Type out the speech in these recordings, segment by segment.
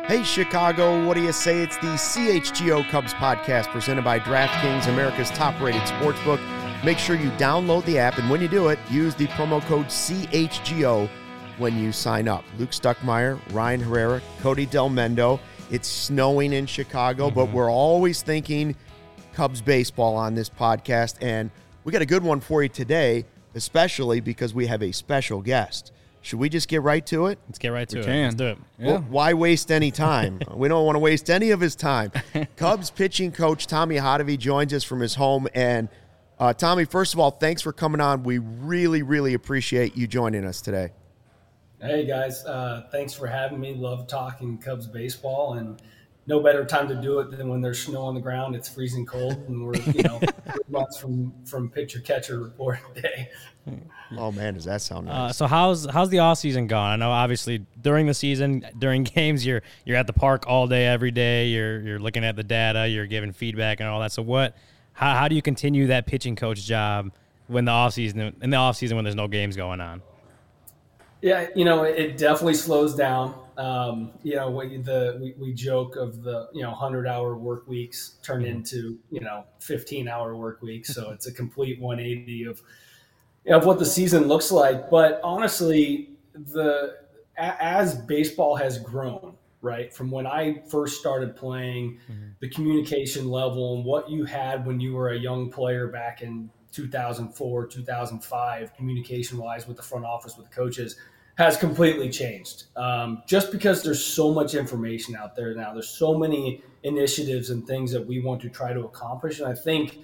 Hey, Chicago, what do you say? It's the CHGO Cubs podcast presented by DraftKings, America's top-rated sportsbook. Make sure you download the app, and when you do it, use the promo code CHGO when you sign up. Luke Stuckmeyer, Ryan Herrera, Cody Del Mendo. It's snowing in Chicago, but we're always thinking Cubs baseball on this podcast, and we got a good one for you today, especially because we have a special guest. Should we just get right to it? Let's get right to it. Let's do it. Yeah. Well, why waste any time? We don't want to waste any of his time. Cubs pitching coach Tommy Hotovy joins us from his home. And Tommy, first of all, thanks for coming on. We really, really appreciate you joining us today. Hey, guys. Thanks for having me. Love talking Cubs baseball, and no better time to do it than when there's snow on the ground, it's freezing cold, and we're 3 months from pitcher-catcher report day. Oh, man, does that sound nice? So how's the off season gone? I know obviously during the season, during games, you're at the park all day, every day. You're looking at the data, you're giving feedback and all that. So how do you continue that pitching coach job in the off season when there's no games going on? Yeah, it definitely slows down. We joke of the 100-hour work weeks turn into 15-hour work weeks. So it's a complete 180 of what the season looks like. But honestly, as baseball has grown, right, from when I first started playing, the communication level and what you had when you were a young player back in 2004, 2005, communication-wise with the front office, with the coaches, has completely changed. Just because there's so much information out there now, there's so many initiatives and things that we want to try to accomplish. And I think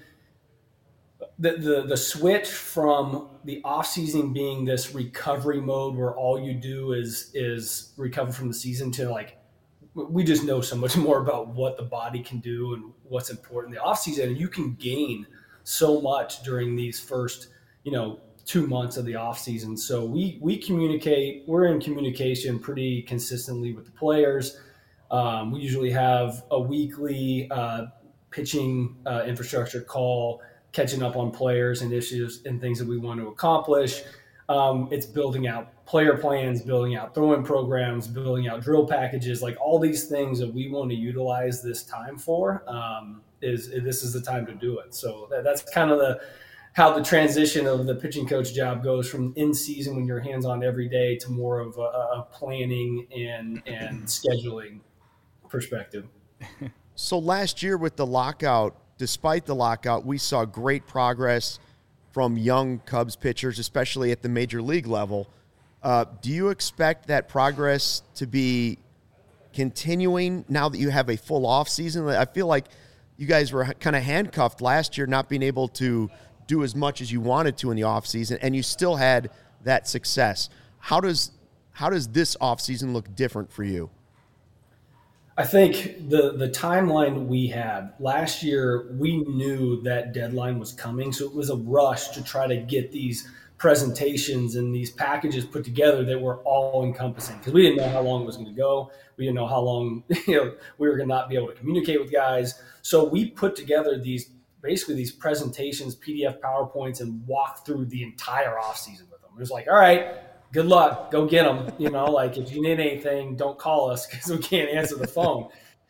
the switch from the off-season being this recovery mode where all you do is recover from the season to we just know so much more about what the body can do and what's important in the off-season. And you can gain so much during these first, 2 months of the off season. So we communicate, we're in communication pretty consistently with the players. We usually have a weekly pitching infrastructure call, catching up on players, initiatives, and things that we want to accomplish. It's building out player plans, building out throwing programs, building out drill packages, like all these things that we want to utilize this time for. This is the time to do it. So that's kind of how the transition of the pitching coach job goes from in season when you're hands on every day to more of a planning and scheduling perspective. So last year with the lockout, despite the lockout, we saw great progress from young Cubs pitchers, especially at the major league level. Do you expect that progress to be continuing now that you have a full off season? I feel like you guys were kind of handcuffed last year, not being able to do as much as you wanted to in the off season, and you still had that success. How does this off season look different for you? I think the timeline we had last year, we knew that deadline was coming, so it was a rush to try to get these presentations and these packages put together that were all encompassing, because we didn't know how long it was going to go. We didn't know how long we were going to not be able to communicate with guys. So we put together these presentations, PDF PowerPoints, and walk through the entire offseason with them. It was like, all right, good luck, go get them. If you need anything, don't call us because we can't answer the phone.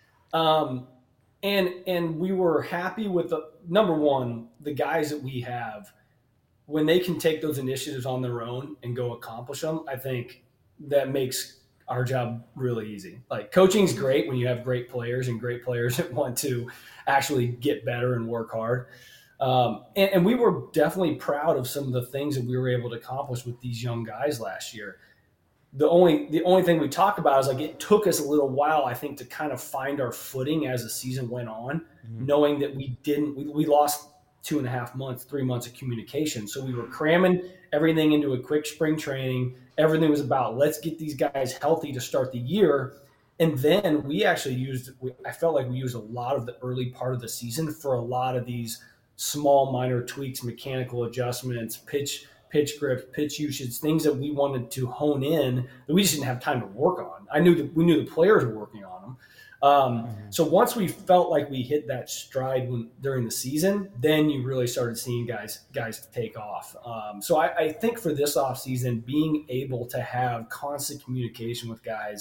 And we were happy with number one, the guys that we have, when they can take those initiatives on their own and go accomplish them. I think that makes our job really easy. Coaching is great when you have great players and great players that want to actually get better and work hard. And we were definitely proud of some of the things that we were able to accomplish with these young guys last year. The only thing we talk about is it took us a little while, I think, to kind of find our footing as the season went on, knowing that we lost 2.5 months, 3 months of communication. So we were cramming everything into a quick spring training. Everything was about, let's get these guys healthy to start the year. And then I felt like we used a lot of the early part of the season for a lot of these small minor tweaks, mechanical adjustments, pitch grips, pitch usage, things that we wanted to hone in that we just didn't have time to work on. We knew the players were working on them. So once we felt like we hit that stride during the season, then you really started seeing guys take off. So I think for this offseason, being able to have constant communication with guys,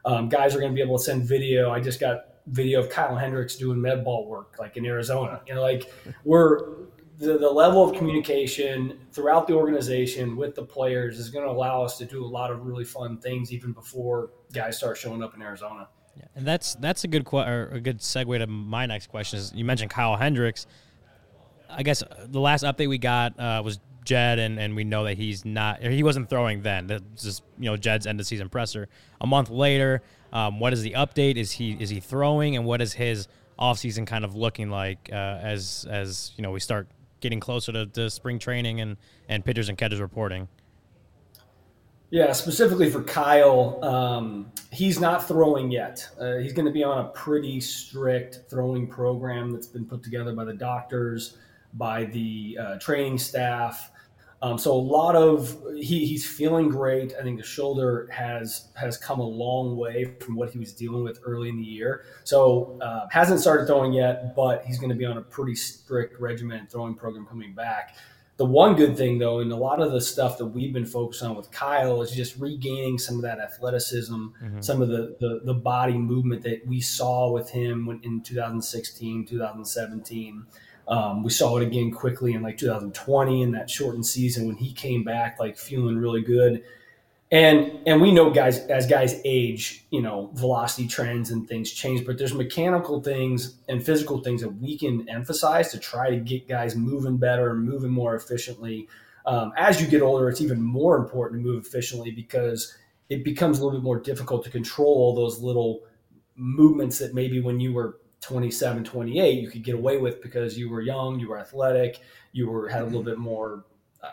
Guys are going to be able to send video. I just got video of Kyle Hendricks doing med ball work, like in Arizona. Like the level of communication throughout the organization with the players is going to allow us to do a lot of really fun things even before guys start showing up in Arizona. Yeah, and that's a good a good segue to my next question. Is you mentioned Kyle Hendricks. I guess the last update we got was Jed, and we know that he wasn't throwing then. That's just Jed's end of season presser. A month later, what is the update? Is he throwing, and what is his offseason kind of looking like as we start getting closer to spring training and pitchers and catchers reporting? Yeah, specifically for Kyle, he's not throwing yet. He's going to be on a pretty strict throwing program that's been put together by the doctors, by the training staff. So a lot of he's feeling great. I think the shoulder has come a long way from what he was dealing with early in the year. So hasn't started throwing yet, but he's going to be on a pretty strict regimented throwing program coming back. The one good thing, though, and a lot of the stuff that we've been focused on with Kyle is just regaining some of that athleticism, some of the body movement that we saw with him in 2016, 2017. We saw it again quickly in like 2020 in that shortened season when he came back like feeling really good. And we know as guys age, velocity trends and things change, but there's mechanical things and physical things that we can emphasize to try to get guys moving better and moving more efficiently. As you get older, it's even more important to move efficiently because it becomes a little bit more difficult to control all those little movements that maybe when you were 27, 28, you could get away with because you were young, you were athletic, had a little bit more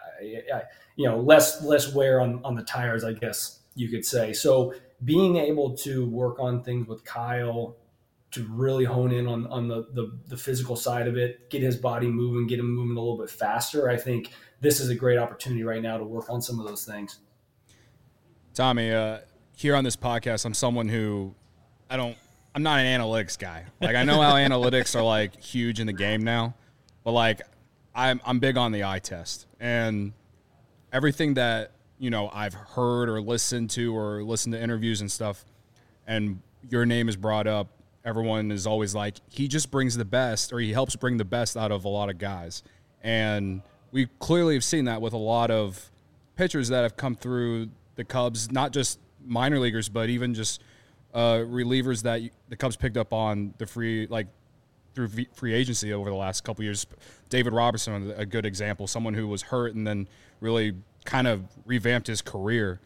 less wear on the tires, I guess you could say. So being able to work on things with Kyle to really hone in on the physical side of it, get his body moving, get him moving a little bit faster. I think this is a great opportunity right now to work on some of those things. Tommy, here on this podcast, I'm someone who I'm not an analytics guy. Like I know how analytics are like huge in the game now, but like I'm big on the eye test. And everything that, I've heard or listened to interviews and stuff, and your name is brought up, everyone is always like, he just brings the best, or he helps bring the best out of a lot of guys. And we clearly have seen that with a lot of pitchers that have come through the Cubs, not just minor leaguers, but even just relievers that the Cubs picked up on the through free agency over the last couple of years. David Robertson, a good example, someone who was hurt and then really kind of revamped his career.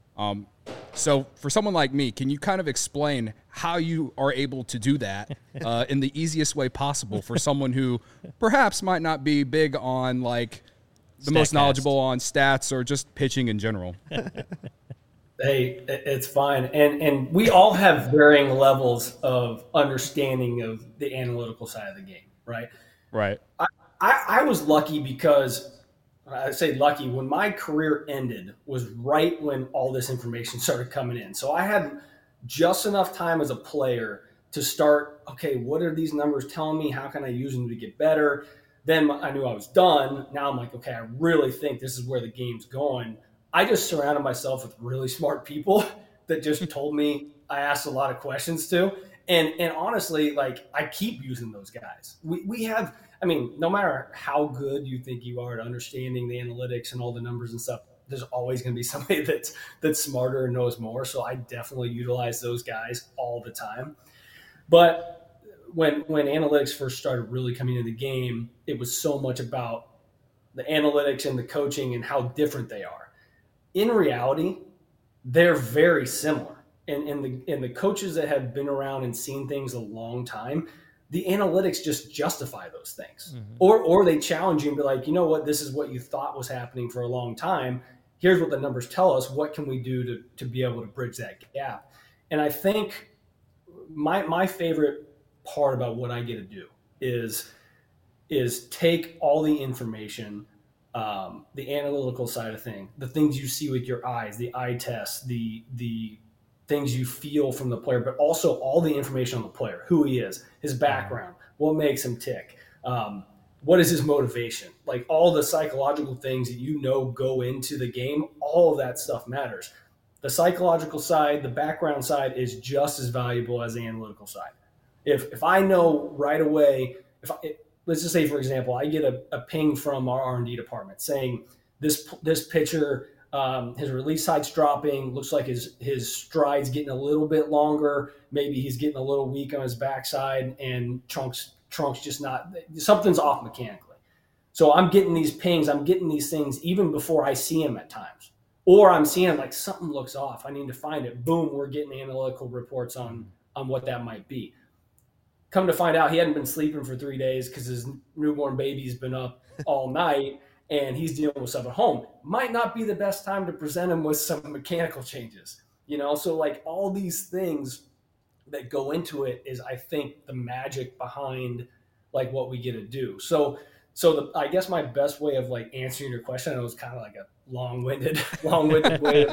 So for someone like me, can you kind of explain how you are able to do that in the easiest way possible for someone who perhaps might not be big on like the most knowledgeable on stats or just pitching in general? Hey, it's fine. And we all have varying levels of understanding of the analytical side of the game, right? Right. I was lucky because I say lucky when my career ended was right when all this information started coming in. So I had just enough time as a player to start, okay, what are these numbers telling me? How can I use them to get better? Then I knew I was done. Now I'm like, okay, I really think this is where the game's going. I just surrounded myself with really smart people that just told me. I asked a lot of questions to. And honestly, like I keep using those guys. We have, I mean, no matter how good you think you are at understanding the analytics and all the numbers and stuff, there's always going to be somebody that's smarter and knows more. So I definitely utilize those guys all the time. But when analytics first started really coming into the game, it was so much about the analytics and the coaching and how different they are. In reality, they're very similar. And the coaches that have been around and seen things a long time, the analytics just justify those things. Mm-hmm. Or they challenge you and be like, you know what, this is what you thought was happening for a long time. Here's what the numbers tell us. What can we do to be able to bridge that gap? And I think my favorite part about what I get to do is take all the information, the analytical side of things, the things you see with your eyes, the eye tests, the things you feel from the player, but also all the information on the player, who he is, his background, what makes him tick, what is his motivation, like all the psychological things that go into the game, all of that stuff matters. The psychological side, the background side is just as valuable as the analytical side. If I know right away, let's just say, for example, I get a ping from our R&D department saying this pitcher, his release height's dropping, looks like his stride's getting a little bit longer, maybe he's getting a little weak on his backside, and trunk's just not, something's off mechanically. So I'm getting these pings, I'm getting these things even before I see him at times. Or I'm seeing like something looks off, I need to find it. Boom, we're getting analytical reports on what that might be. Come to find out, he hadn't been sleeping for 3 days because his newborn baby's been up all night and he's dealing with stuff at home. Might not be the best time to present him with some mechanical changes, So like all these things that go into it is, I think, the magic behind like what we get to do. So I guess my best way of like answering your question, I know it's kind of like a long-winded way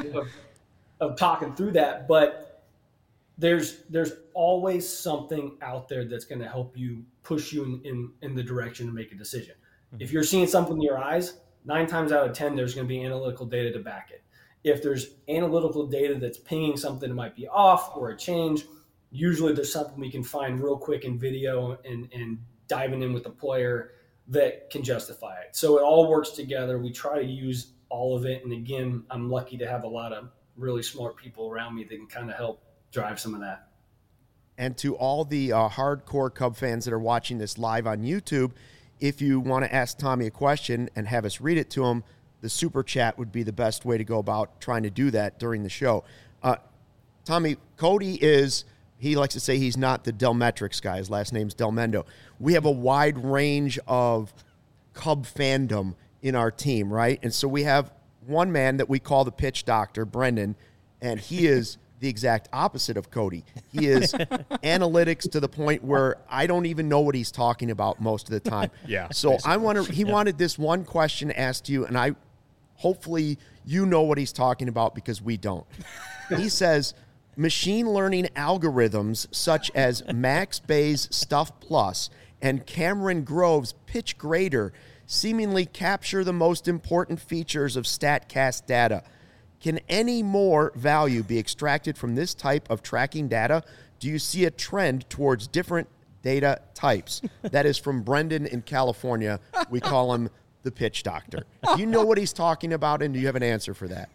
of talking through that, but there's always something out there that's going to help you push you in the direction to make a decision. Mm-hmm. If you're seeing something in your eyes, 9 times out of 10, there's going to be analytical data to back it. If there's analytical data that's pinging something that might be off or a change, usually there's something we can find real quick in video and diving in with the player that can justify it. So it all works together. We try to use all of it. And again, I'm lucky to have a lot of really smart people around me that can kind of help drive some of that. And to all the hardcore Cub fans that are watching this live on YouTube, if you want to ask Tommy a question and have us read it to him, the super chat would be the best way to go about trying to do that during the show. Tommy, Cody he likes to say he's not the Delmetrics guy. His last name's Delmendo. We have a wide range of Cub fandom in our team, right? And so we have one man that we call the pitch doctor, Brendan, and he is the exact opposite of Cody. He is analytics to the point where I don't even know what he's talking about most of the time. Yeah. So he wanted this one question asked to you, and hopefully you know what he's talking about because we don't. He says, machine learning algorithms such as Max Bay's Stuff Plus and Cameron Grove's Pitch Grader seemingly capture the most important features of StatCast data. Can any more value be extracted from this type of tracking data? Do you see a trend towards different data types? That is from Brendan in California. We call him the pitch doctor. Do you know what he's talking about, and do you have an answer for that?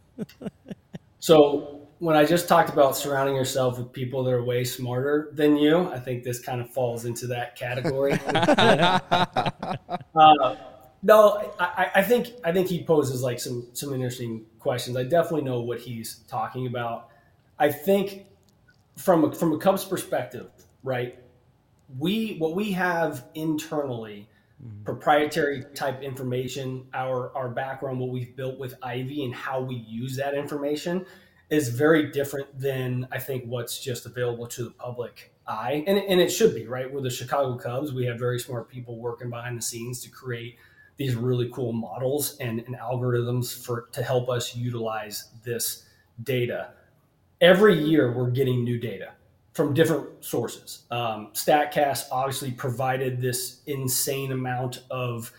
So when I just talked about surrounding yourself with people that are way smarter than you, I think this kind of falls into that category. No, I think he poses like some interesting questions. I definitely know what he's talking about. I think from a Cubs perspective, right? What we have internally, proprietary type information, our background, what we've built with Ivy and how we use that information is very different than I think what's just available to the public eye. And it should be, right? We're the Chicago Cubs. We have very smart people working behind the scenes to create these really cool models and algorithms to help us utilize this data. Every year we're getting new data from different sources. StatCast obviously provided this insane amount of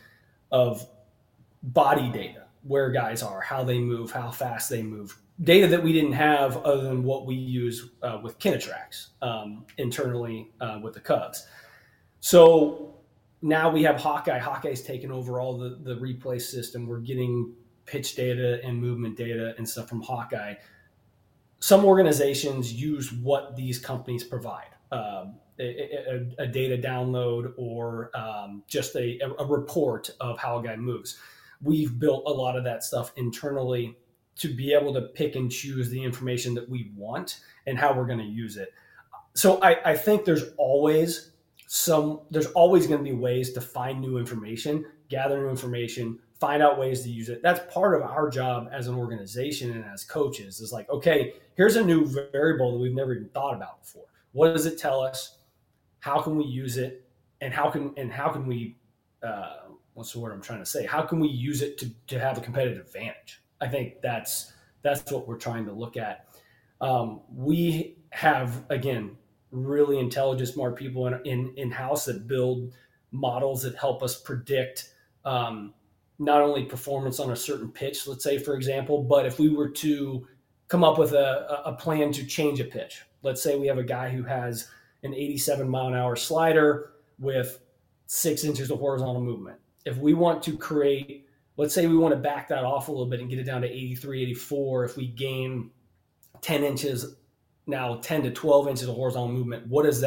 body data, where guys are, how they move, how fast they move. Data that we didn't have other than what we use with Kinetrax internally with the Cubs. So now we have Hawkeye. Hawkeye's taken over all the replay system. We're getting pitch data and movement data and stuff from Hawkeye. Some organizations use what these companies provide, a data download or just a report of how a guy moves. We've built a lot of that stuff internally to be able to pick and choose the information that we want and how we're going to use it. So I think there's always going to be ways to find new information, gather new information, find out ways to use it. That's part of our job as an organization and as coaches is like, okay, here's a new variable that we've never even thought about before. What does it tell us? How can we use it? And how can we, what's the word I'm trying to say? How can we use it to have a competitive advantage? I think that's what we're trying to look at. We have, again, really intelligent, smart people in-house that build models that help us predict not only performance on a certain pitch, let's say, for example, but if we were to come up with a plan to change a pitch. Let's say we have a guy who has an 87 mile an hour slider with 6 inches of horizontal movement. If we want to create, let's say we want to back that off a little bit and get it down to 83, 84, if we gain 10 inches, now 10 to 12 inches of horizontal movement, what does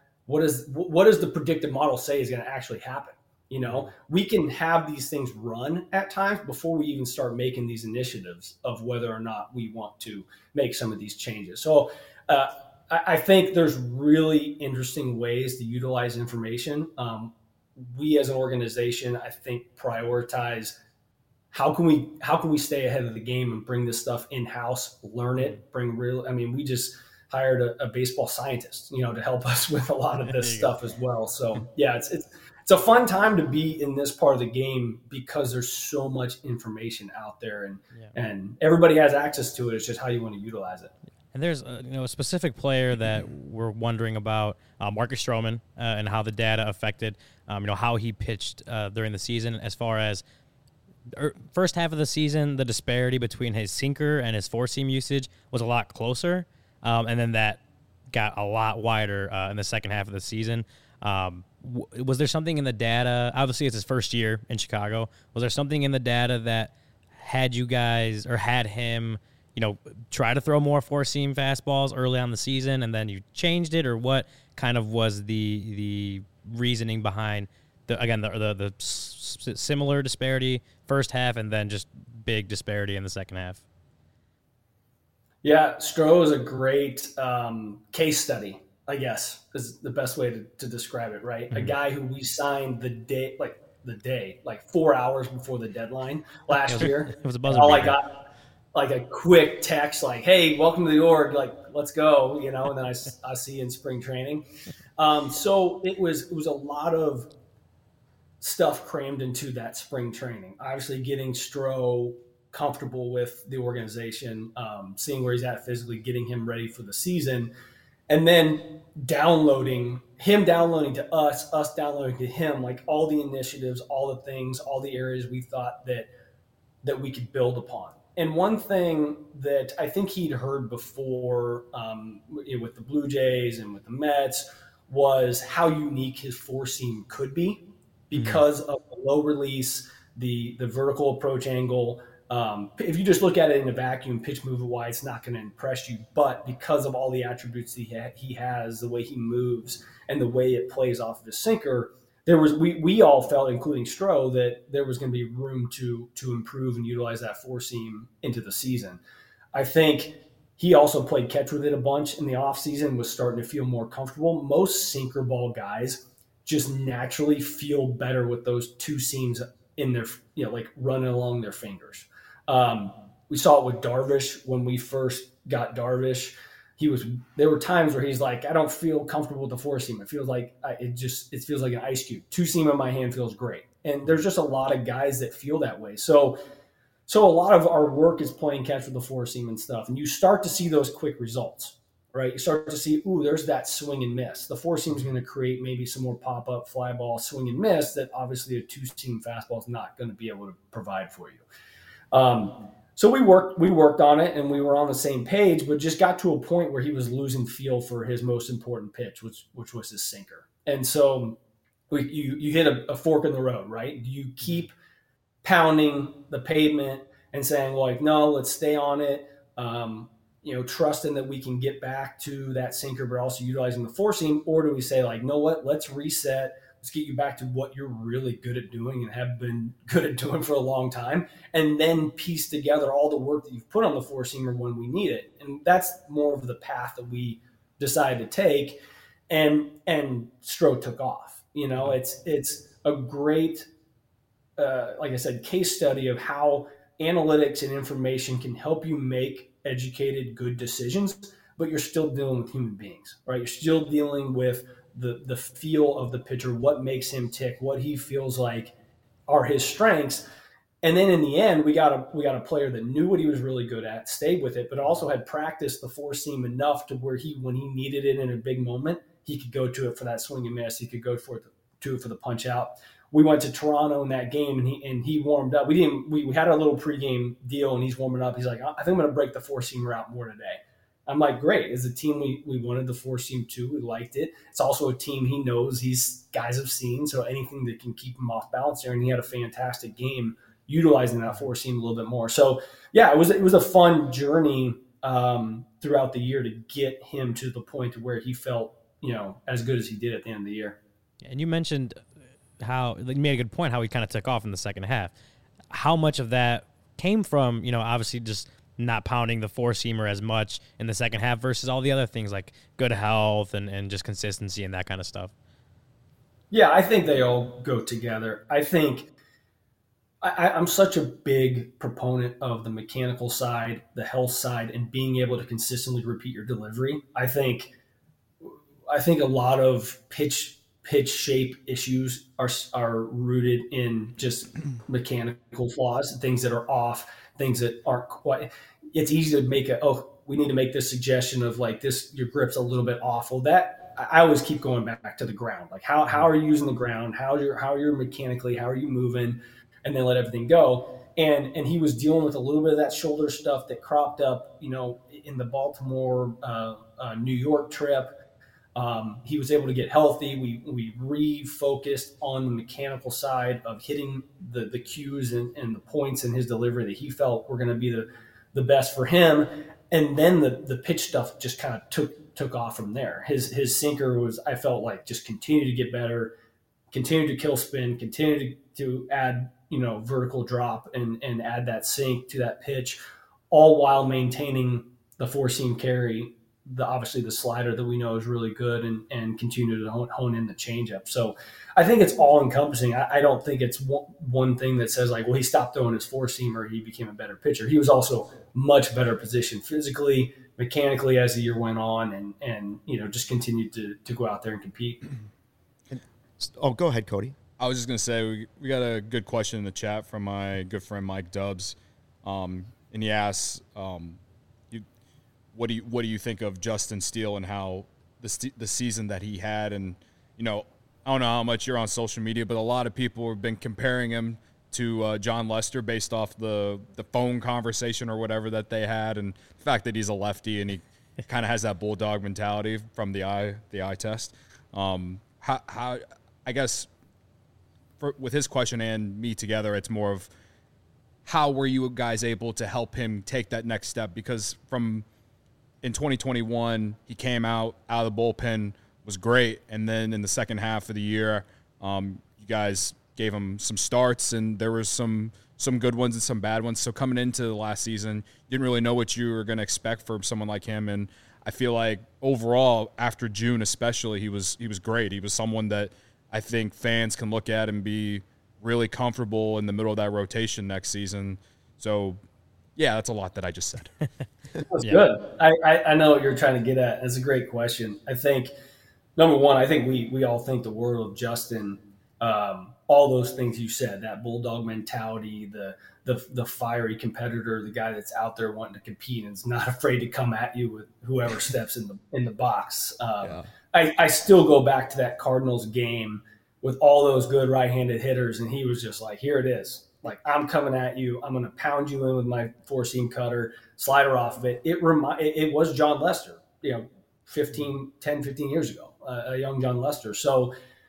the predictive model say is going to actually happen? You know, we can have these things run at times before we even start making these initiatives of whether or not we want to make some of these changes. So I think there's really interesting ways to utilize information. We as an organization, I think, prioritize how can we stay ahead of the game and bring this stuff in-house, learn it, we just hired a baseball scientist, to help us with a lot of this stuff as well. So yeah, it's a fun time to be in this part of the game because there's so much information out there and everybody has access to it. It's just how you want to utilize it. And there's a specific player that we're wondering about, Marcus Stroman, and how the data affected, how he pitched during the season. As far as first half of the season, the disparity between his sinker and his four-seam usage was a lot closer, and then that got a lot wider in the second half of the season. Was there something in the data? Obviously, it's his first year in Chicago. Was there something in the data that had you guys or had him, try to throw more four-seam fastballs early on the season, and then you changed it, or what kind of was the reasoning behind the similar disparity first half and then just big disparity in the second half? Yeah, Stroh is a great case study, I guess, is the best way to describe it, right? Mm-hmm. A guy who we signed the day, 4 hours before the deadline last year. It was a buzzer beater. I got like a quick text like, hey, welcome to the org, let's go, and then I see you in spring training. So it was a lot of stuff crammed into that spring training. Obviously getting Stroh comfortable with the organization, seeing where he's at physically, getting him ready for the season, and then downloading to us downloading to him, like all the initiatives, all the things, all the areas we thought that we could build upon. And one thing that I think he'd heard before with the Blue Jays and with the Mets was how unique his four-seam could be because of the low release, the vertical approach angle. If you just look at it in a vacuum, pitch movement wise, it's not going to impress you. But because of all the attributes he has, the way he moves and the way it plays off of his sinker, we all felt, including Stroh, that there was going to be room to improve and utilize that four seam into the season. I think he also played catch with it a bunch in the offseason, was starting to feel more comfortable. Most sinker ball guys just naturally feel better with those two seams in their, running along their fingers. We saw it with Darvish when we first got Darvish. There were times where he's like, I don't feel comfortable with the four seam. It feels like it feels like an ice cube. Two seam in my hand feels great. And there's just a lot of guys that feel that way. So a lot of our work is playing catch with the four seam and stuff. And you start to see those quick results, right? You start to see, there's that swing and miss. The four seam is going to create maybe some more pop up fly ball swing and miss that obviously a two seam fastball is not going to be able to provide for you. So we worked on it and we were on the same page, but just got to a point where he was losing feel for his most important pitch, which was his sinker. And so you hit a fork in the road, right? Do you keep pounding the pavement and saying, no, let's stay on it, trusting that we can get back to that sinker, but also utilizing the four seam? Or do we say, know what, let's reset. Let's get you back to what you're really good at doing and have been good at doing for a long time, and then piece together all the work that you've put on the four-seamer when we need it. And that's more of the path that we decided to take, and Stroh took off. It's a great, like I said, case study of how analytics and information can help you make educated, good decisions, but you're still dealing with human beings, right? You're still dealing with the feel of the pitcher, what makes him tick, what he feels like are his strengths. And then in the end, we got a player that knew what he was really good at, stayed with it, but also had practiced the four seam enough to where when he needed it in a big moment, he could go to it for that swing and miss. He could go to it for the punch out. we went to Toronto in that game, and he warmed up. We had a little pregame deal, and he's warming up. He's like, I think I'm going to break the four-seamer out more today. I'm like, great. It's a team we wanted the four-seam too. We liked it. It's also a team he knows these guys have seen, so anything that can keep him off balance there. And he had a fantastic game utilizing that four-seam a little bit more. So, yeah, it was a fun journey throughout the year to get him to the point to where he felt, as good as he did at the end of the year. And you mentioned how you made a good point, how he kind of took off in the second half. How much of that came from, obviously just not pounding the four-seamer as much in the second half versus all the other things like good health and just consistency and that kind of stuff? Yeah, I think they all go together. I think I'm such a big proponent of the mechanical side, the health side, and being able to consistently repeat your delivery. I think a lot of pitch shape issues are rooted in just mechanical flaws, things that are off, things that aren't quite. It's easy to make we need to make this suggestion of like this, your grip's a little bit off. Well, that I always keep going back to the ground. Like how are you using the ground? How you're mechanically, how are you moving? And then let everything go. And he was dealing with a little bit of that shoulder stuff that cropped up, in the Baltimore, New York trip. He was able to get healthy. We refocused on the mechanical side of hitting the cues and the points in his delivery that he felt were going to be the best for him. And then the pitch stuff just kind of took off from there. His sinker was, I felt like, just continued to get better, continued to kill spin, continued to add, vertical drop and add that sink to that pitch, all while maintaining the four-seam carry, obviously the slider that we know is really good, and continue to hone in the changeup. So I think it's all encompassing. I don't think it's one thing that says like, well, he stopped throwing his four-seamer, he became a better pitcher. He was also much better positioned physically, mechanically as the year went on, and just continued to go out there and compete. Go ahead, Cody. I was just going to say, we got a good question in the chat from my good friend Mike Dubs. And he asks, what do you think of Justin Steele and how the season that he had? And, I don't know how much you're on social media, but a lot of people have been comparing him to John Lester based off the phone conversation or whatever that they had, and the fact that he's a lefty and he kind of has that bulldog mentality from the eye test. How I guess with his question and me together, it's more of how were you guys able to help him take that next step? Because in 2021, he came out of the bullpen, was great, and then in the second half of the year, you guys gave him some starts, and there was some good ones and some bad ones. So coming into the last season, you didn't really know what you were going to expect from someone like him, and I feel like overall, after June especially, he was great. He was someone that I think fans can look at and be really comfortable in the middle of that rotation next season. So, yeah, that's a lot that I just said. That's good. I know what you're trying to get at. That's a great question. I think, number one, I think we all think the world of Justin. All those things you said, that bulldog mentality, the fiery competitor, the guy that's out there wanting to compete and is not afraid to come at you with whoever steps in the box. I still go back to that Cardinals game with all those good right-handed hitters, and he was just like, here it is. Like, I'm coming at you. I'm going to pound you in with my four-seam cutter, slider off of it. It was John Lester, 10, 15 years ago, a young John Lester. So,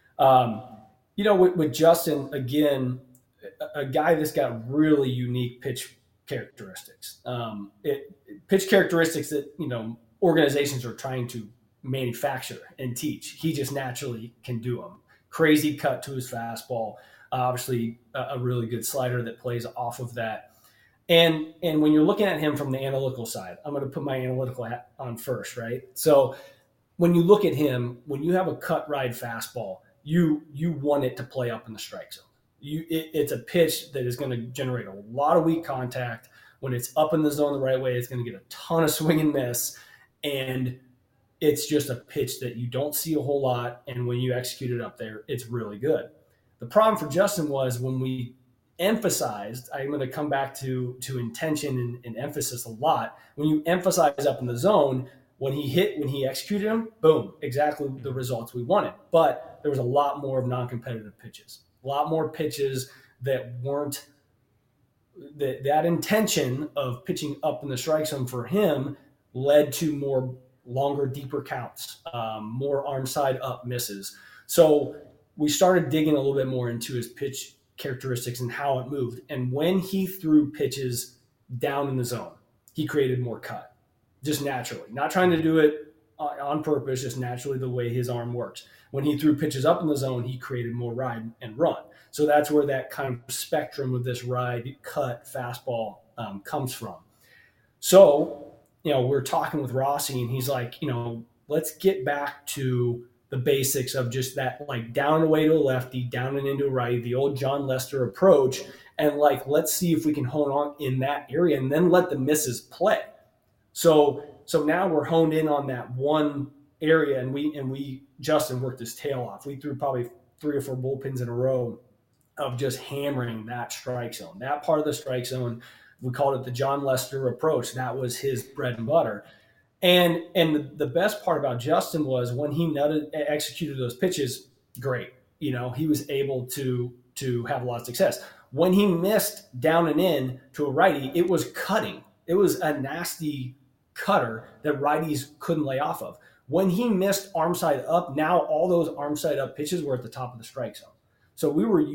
with Justin, again, a guy that's got really unique pitch characteristics. Pitch characteristics that, organizations are trying to manufacture and teach. He just naturally can do them. Crazy cut to his fastball. Obviously, a really good slider that plays off of that. And when you're looking at him from the analytical side, I'm going to put my analytical hat on first, right? So when you look at him, when you have a cut ride fastball, you want it to play up in the strike zone. It's a pitch that is going to generate a lot of weak contact. When it's up in the zone the right way, it's going to get a ton of swing and miss. And it's just a pitch that you don't see a whole lot. And when you execute it up there, it's really good. The problem for Justin was when we emphasized, I'm going to come back to intention and emphasis a lot. When you emphasize up in the zone, when he executed them, boom, exactly the results we wanted. But there was a lot more of non-competitive pitches, A lot more pitches that weren't that intention of pitching up in the strike zone for him led to more longer, deeper counts, more arm side up misses. So we started digging a little bit more into his pitch characteristics and how it moved. And when he threw pitches down in the zone, he created more cut, just naturally, not trying to do it on purpose, just naturally the way his arm works. When he threw pitches up in the zone, he created more ride and run. So that's where that kind of spectrum of this ride, cut, fastball comes from. So, we're talking with Rossi, and he's like, let's get back to the basics of just that, like down and away to a lefty, down and into a righty, the old John Lester approach. And let's see if we can hone on in that area and then let the misses play. So now we're honed in on that one area, and Justin worked his tail off. We threw probably 3 or 4 bullpens in a row of just hammering that strike zone. That part of the strike zone, we called it the John Lester approach. That was his bread and butter. And the best part about Justin was when he executed those pitches, great. He was able to have a lot of success. When he missed down and in to a righty, it was cutting. It was a nasty cutter that righties couldn't lay off of. When he missed arm side up, now all those arm side up pitches were at the top of the strike zone. So we were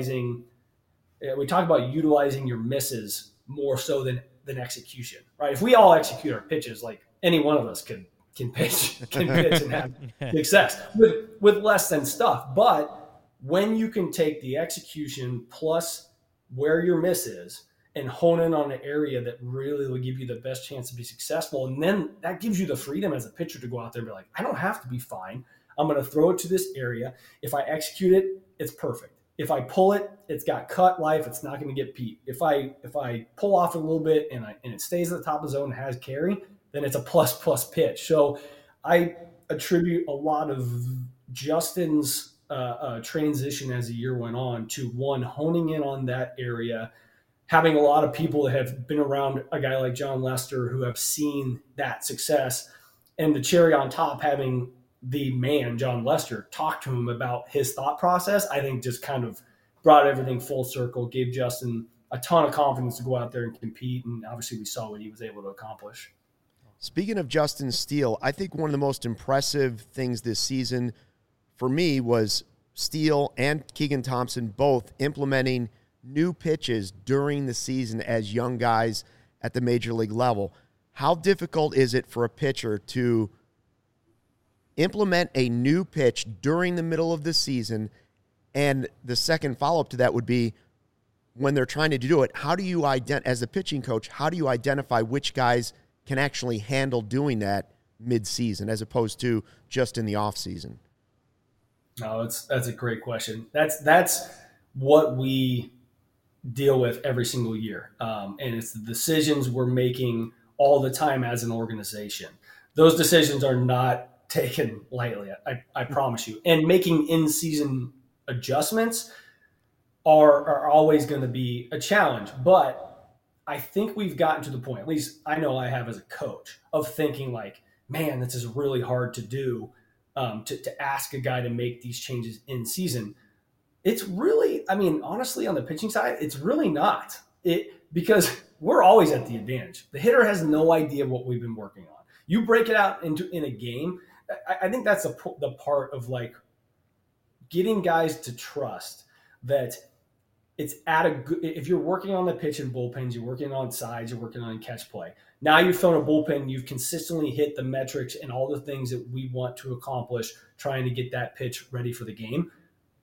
we talk about utilizing your misses more so than execution, right? If we all execute our pitches, like any one of us can pitch and have success with less than stuff. But when you can take the execution plus where your miss is and hone in on an area that really will give you the best chance to be successful, and then that gives you the freedom as a pitcher to go out there and be like, I don't have to be fine. I'm going to throw it to this area. If I execute it, it's perfect. If I pull it, it's got cut life. It's not going to get beat. If I pull off a little bit and it stays at the top of the zone and has carry, then it's a plus pitch. So I attribute a lot of Justin's transition as the year went on to one, honing in on that area, having a lot of people that have been around a guy like John Lester who have seen that success, and the cherry on top, having the man, John Lester, talk to him about his thought process, I think just kind of brought everything full circle, gave Justin a ton of confidence to go out there and compete. And obviously we saw what he was able to accomplish. Speaking of Justin Steele, I think one of the most impressive things this season for me was Steele and Keegan Thompson both implementing new pitches during the season as young guys at the major league level. How difficult is it for a pitcher to implement a new pitch during the middle of the season? And the second follow-up to that would be, when they're trying to do it, how do you as a pitching coach, how do you identify which guys can actually handle doing that mid-season as opposed to just in the off-season? No, that's a great question. That's what we deal with every single year. And it's the decisions we're making all the time as an organization. Those decisions are not taken lightly, I promise you. And making in-season adjustments are always going to be a challenge. But I think we've gotten to the point, at least I know I have as a coach, of thinking like, man, this is really hard to do, to ask a guy to make these changes in season. It's really, honestly, on the pitching side, it's really not. Because we're always at the advantage. The hitter has no idea what we've been working on. You break it out in a game, I think that's the part of like getting guys to trust that it's if you're working on the pitch and bullpens, you're working on sides, you're working on catch play. Now you've thrown a bullpen, you've consistently hit the metrics and all the things that we want to accomplish trying to get that pitch ready for the game.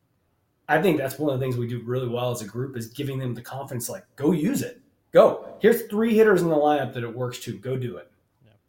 I think that's one of the things we do really well as a group, is giving them the confidence, like, go use it. Go. Here's 3 hitters in the lineup that it works to. Go do it.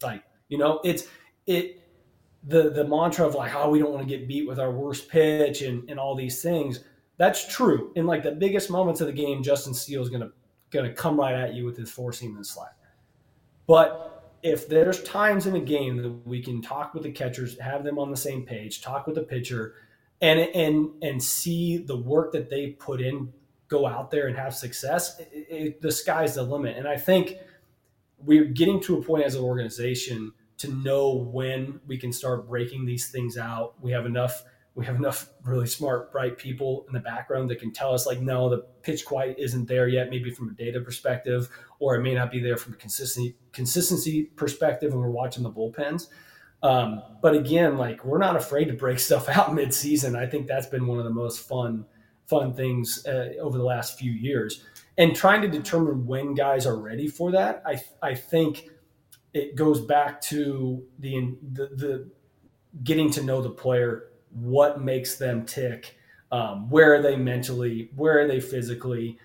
Yeah. The mantra of like, we don't want to get beat with our worst pitch and all these things. That's true. In like the biggest moments of the game, Justin Steele is gonna come right at you with his 4-seam and slide. But if there's times in the game that we can talk with the catchers, have them on the same page, talk with the pitcher, and see the work that they put in, go out there and have success, the sky's the limit. And I think we're getting to a point as an organization to know when we can start breaking these things out. We have enough We have enough really smart, bright people in the background that can tell us, like, no, the pitch quite isn't there yet, maybe from a data perspective, or it may not be there from a consistency perspective when we're watching the bullpens. But again, like, we're not afraid to break stuff out mid-season. I think that's been one of the most fun things over the last few years. And trying to determine when guys are ready for that, I think it goes back to the getting to know the player, what makes them tick, where are they mentally, where are they physically.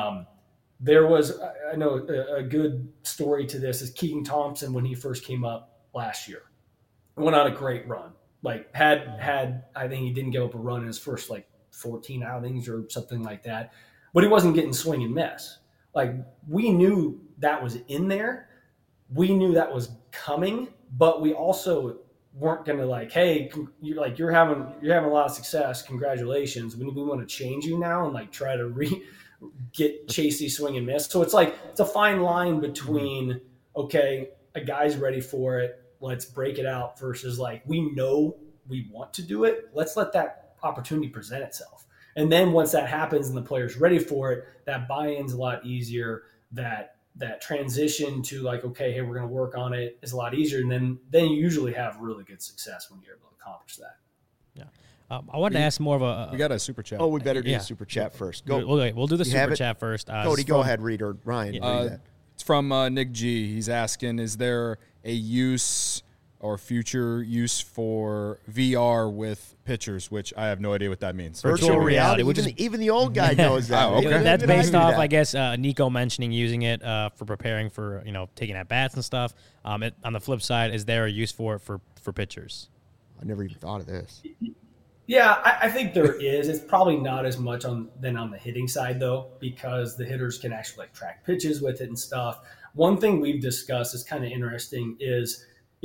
There was, I know, a good story to this is Keegan Thompson when he first came up last year. Went on a great run. Like had I think he didn't give up a run in his first like 14 outings or something like that, but he wasn't getting swing and miss. Like, we knew that was in there. We knew that was coming, but we also weren't going to like, hey, you're having a lot of success. Congratulations. We want to change you now and like try to get Chasey swing and miss. So it's like, it's a fine line between, okay, a guy's ready for it, let's break it out, versus like, we know we want to do it. Let's let that opportunity present itself. And then once that happens and the player's ready for it, that buy-in's a lot easier. That transition to like, okay, hey, we're going to work on it is a lot easier. And then you usually have really good success when you're able to accomplish that. Yeah. I wanted to ask more of a. We got a super chat. Oh, we better do the super chat first. Go. We'll do the super chat first. Cody, go ahead, read, or Ryan. Read that. It's from Nick G. He's asking, is there a use or future use for VR with pitchers, which I have no idea what that means. Virtual reality, which even the old guy knows that. Oh, okay. That's based off, I guess, Nico mentioning using it for preparing for, taking at bats and stuff. On the flip side, is there a use for it for pitchers? I never even thought of this. Yeah, I think there is. It's probably not as much on the hitting side, though, because the hitters can actually like track pitches with it and stuff. One thing we've discussed is kind of interesting is,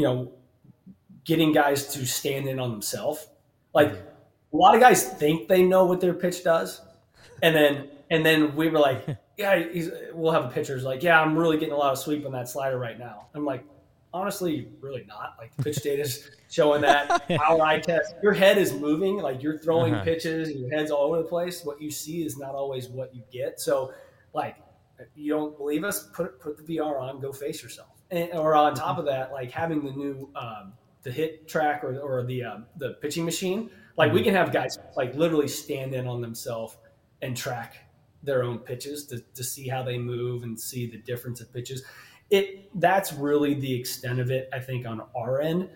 getting guys to stand in on themselves. Like, a lot of guys think they know what their pitch does, and then we were like, yeah, we'll have a pitcher's like, yeah, I'm really getting a lot of sweep on that slider right now. I'm like, honestly, really not. Like, the pitch data's showing that. Our eye test, your head is moving, like you're throwing pitches, and your head's all over the place. What you see is not always what you get. So, like, you don't believe us? Put the VR on, go face yourself. Or on top of that, like having the new the hit track or the pitching machine, like we can have guys like literally stand in on themselves and track their own pitches to see how they move and see the difference of pitches. That's really the extent of it, I think, on our end.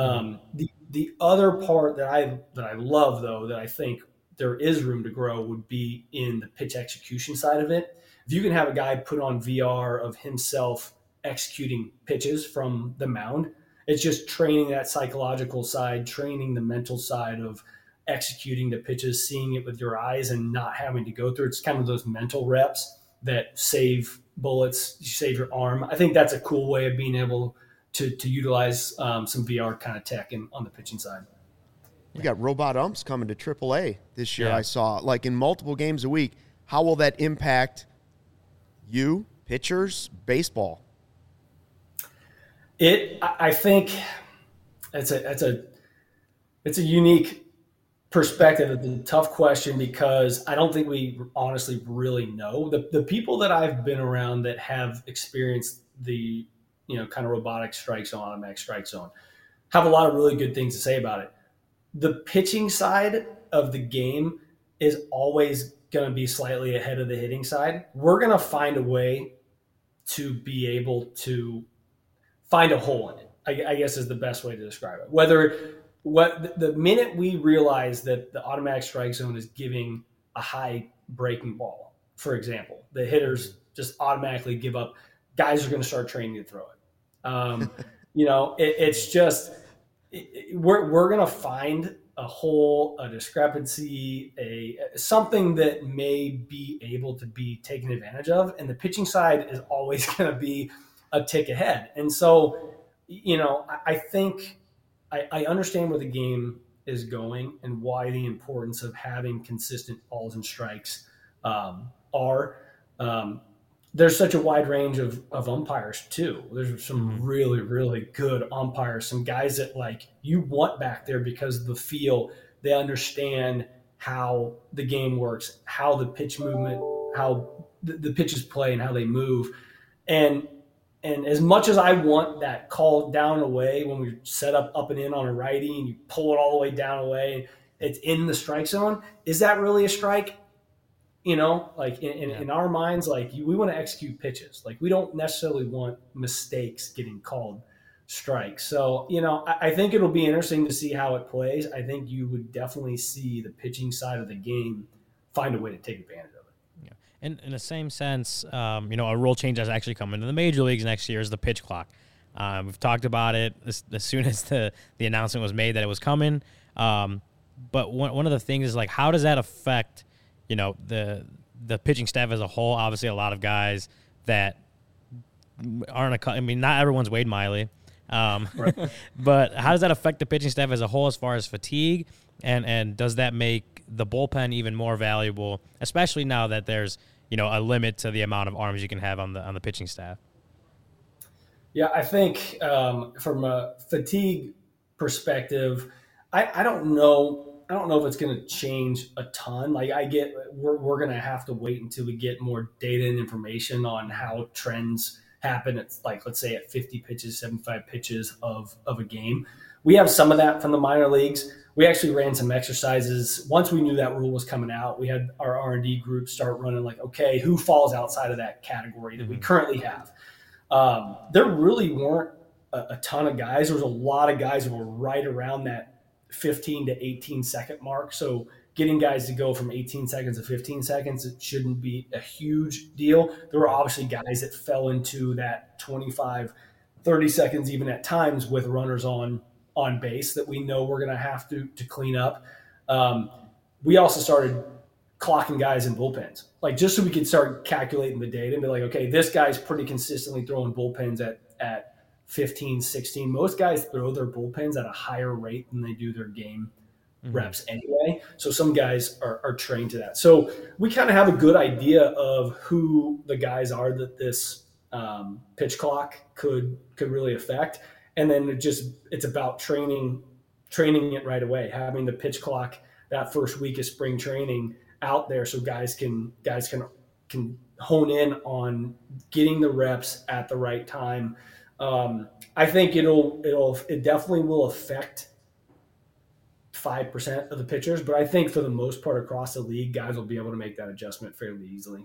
The other part that I love, though, that I think there is room to grow would be in the pitch execution side of it. If you can have a guy put on VR of himself executing pitches from the mound, it's just training that psychological side, training the mental side of executing the pitches, seeing it with your eyes and not having to go through. It's kind of those mental reps that save bullets, you save your arm. I think that's a cool way of being able to utilize some VR kind of tech on the pitching side. We got robot umps coming to AAA this year. Yeah. I saw, like, in multiple games a week. How will that impact you, pitchers, baseball? I think it's a unique perspective. It's a tough question because I don't think we honestly really know. The people that I've been around that have experienced the kind of robotic strike zone, automatic strike zone, have a lot of really good things to say about it. The pitching side of the game is always going to be slightly ahead of the hitting side. We're going to find a way to be able to find a hole in it, I guess is the best way to describe it. The minute we realize that the automatic strike zone is giving a high breaking ball, for example, the hitters just automatically give up. Guys are going to start training to throw it. It's just we're going to find a hole, a discrepancy, something that may be able to be taken advantage of, and the pitching side is always going to be a tick ahead. And so, I think I understand where the game is going and why the importance of having consistent balls and strikes are. There's such a wide range of umpires too. There's some really, really good umpires, some guys that like you want back there because of the feel They understand how the game works, how the pitch movement, how the pitches play and how they move. And as much as I want that call down and away when we set up and in on a righty and you pull it all the way down away, it's in the strike zone. Is that really a strike? You know, like in our minds, like we want to execute pitches. Like we don't necessarily want mistakes getting called strikes. So, you know, I think it'll be interesting to see how it plays. I think you would definitely see the pitching side of the game find a way to take advantage of it. Yeah. And in the same sense, you know, a rule change that's actually coming to the major leagues next year is the pitch clock. We've talked about it as soon as the announcement was made that it was coming. But one of the things is, like, how does that affect, you know, the pitching staff as a whole? Obviously, a lot of guys that aren't I mean, not everyone's Wade Miley. Right. But how does that affect the pitching staff as a whole as far as fatigue? And does that make the bullpen even more valuable, especially now that there's, you know, a limit to the amount of arms you can have on the pitching staff? Yeah, I think from a fatigue perspective, I don't know. I don't know if it's going to change a ton. Like we're going to have to wait until we get more data and information on how trends happen. It's like, let's say at 50 pitches, 75 pitches of a game. We have some of that from the minor leagues. We actually ran some exercises. Once we knew that rule was coming out, we had our R&D group start running like, okay, who falls outside of that category that we currently have? There really weren't a ton of guys. There was a lot of guys who were right around that 15 to 18 second mark. So getting guys to go from 18 seconds to 15 seconds, it shouldn't be a huge deal. There were obviously guys that fell into that 25, 30 seconds, even at times with runners on base that we know we're going to have to clean up. We also started clocking guys in bullpens, like just so we could start calculating the data and be like, okay, this guy's pretty consistently throwing bullpens at 15, 16. Most guys throw their bullpens at a higher rate than they do their game reps anyway. So some guys are trained to that. So we kind of have a good idea of who the guys are that this pitch clock could really affect. And then it's about training it right away, having the pitch clock that first week of spring training out there so guys can hone in on getting the reps at the right time. I think it definitely will affect 5% of the pitchers, but I think for the most part across the league, guys will be able to make that adjustment fairly easily.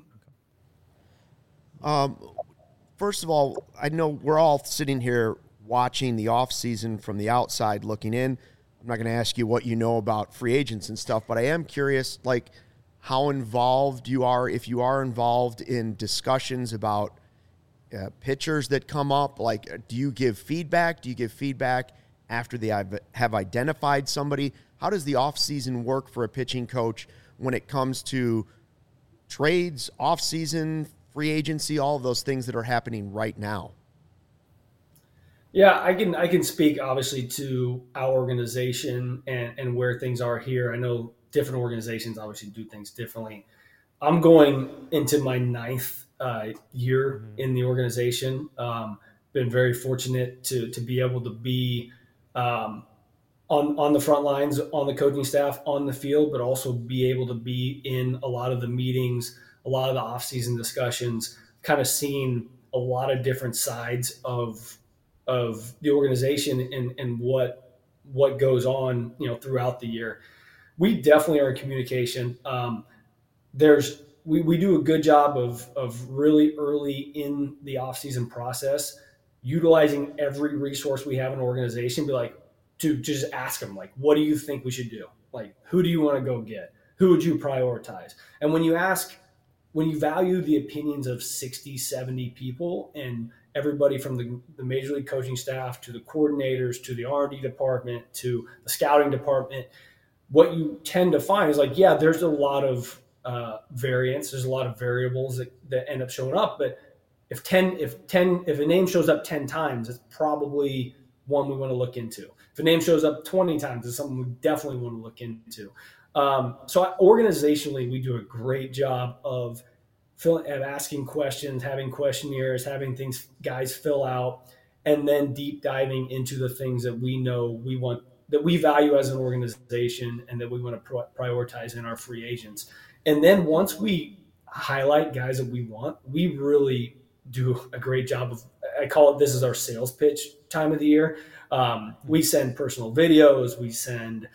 First of all, I know we're all sitting here watching the off season from the outside looking in. I'm not going to ask you what you know about free agents and stuff, but I am curious, like, how involved you are, if you are involved in discussions about pitchers that come up. Like, do you give feedback? Do you give feedback after they have identified somebody? How does the offseason work for a pitching coach when it comes to trades, offseason, free agency, all of those things that are happening right now? Yeah, I can speak obviously to our organization and where things are here. I know different organizations obviously do things differently. I'm going into my 9th year in the organization. Been very fortunate to be able to be on the front lines, on the coaching staff, on the field, but also be able to be in a lot of the meetings, a lot of the off-season discussions, kind of seeing a lot of different sides of the organization and what goes on, you know, throughout the year. We definitely are in communication. We do a good job of really early in the off-season process, utilizing every resource we have in an organization, be like, to just ask them, like, what do you think we should do? Like, who do you want to go get? Who would you prioritize? And when you value the opinions of 60, 70 people and everybody from the Major League coaching staff to the coordinators to the R&D department to the scouting department, what you tend to find is like, yeah, there's a lot of variance. There's a lot of variables that end up showing up. But if a name shows up 10 times, it's probably one we want to look into. If a name shows up 20 times, it's something we definitely want to look into. So organizationally, we do a great job of asking questions, having questionnaires, having things guys fill out, and then deep diving into the things that we know we want that we value as an organization and that we want to prioritize in our free agents. And then once we highlight guys that we want, we really do a great job of, I call it, this is our sales pitch time of the year. We send personal videos. We send,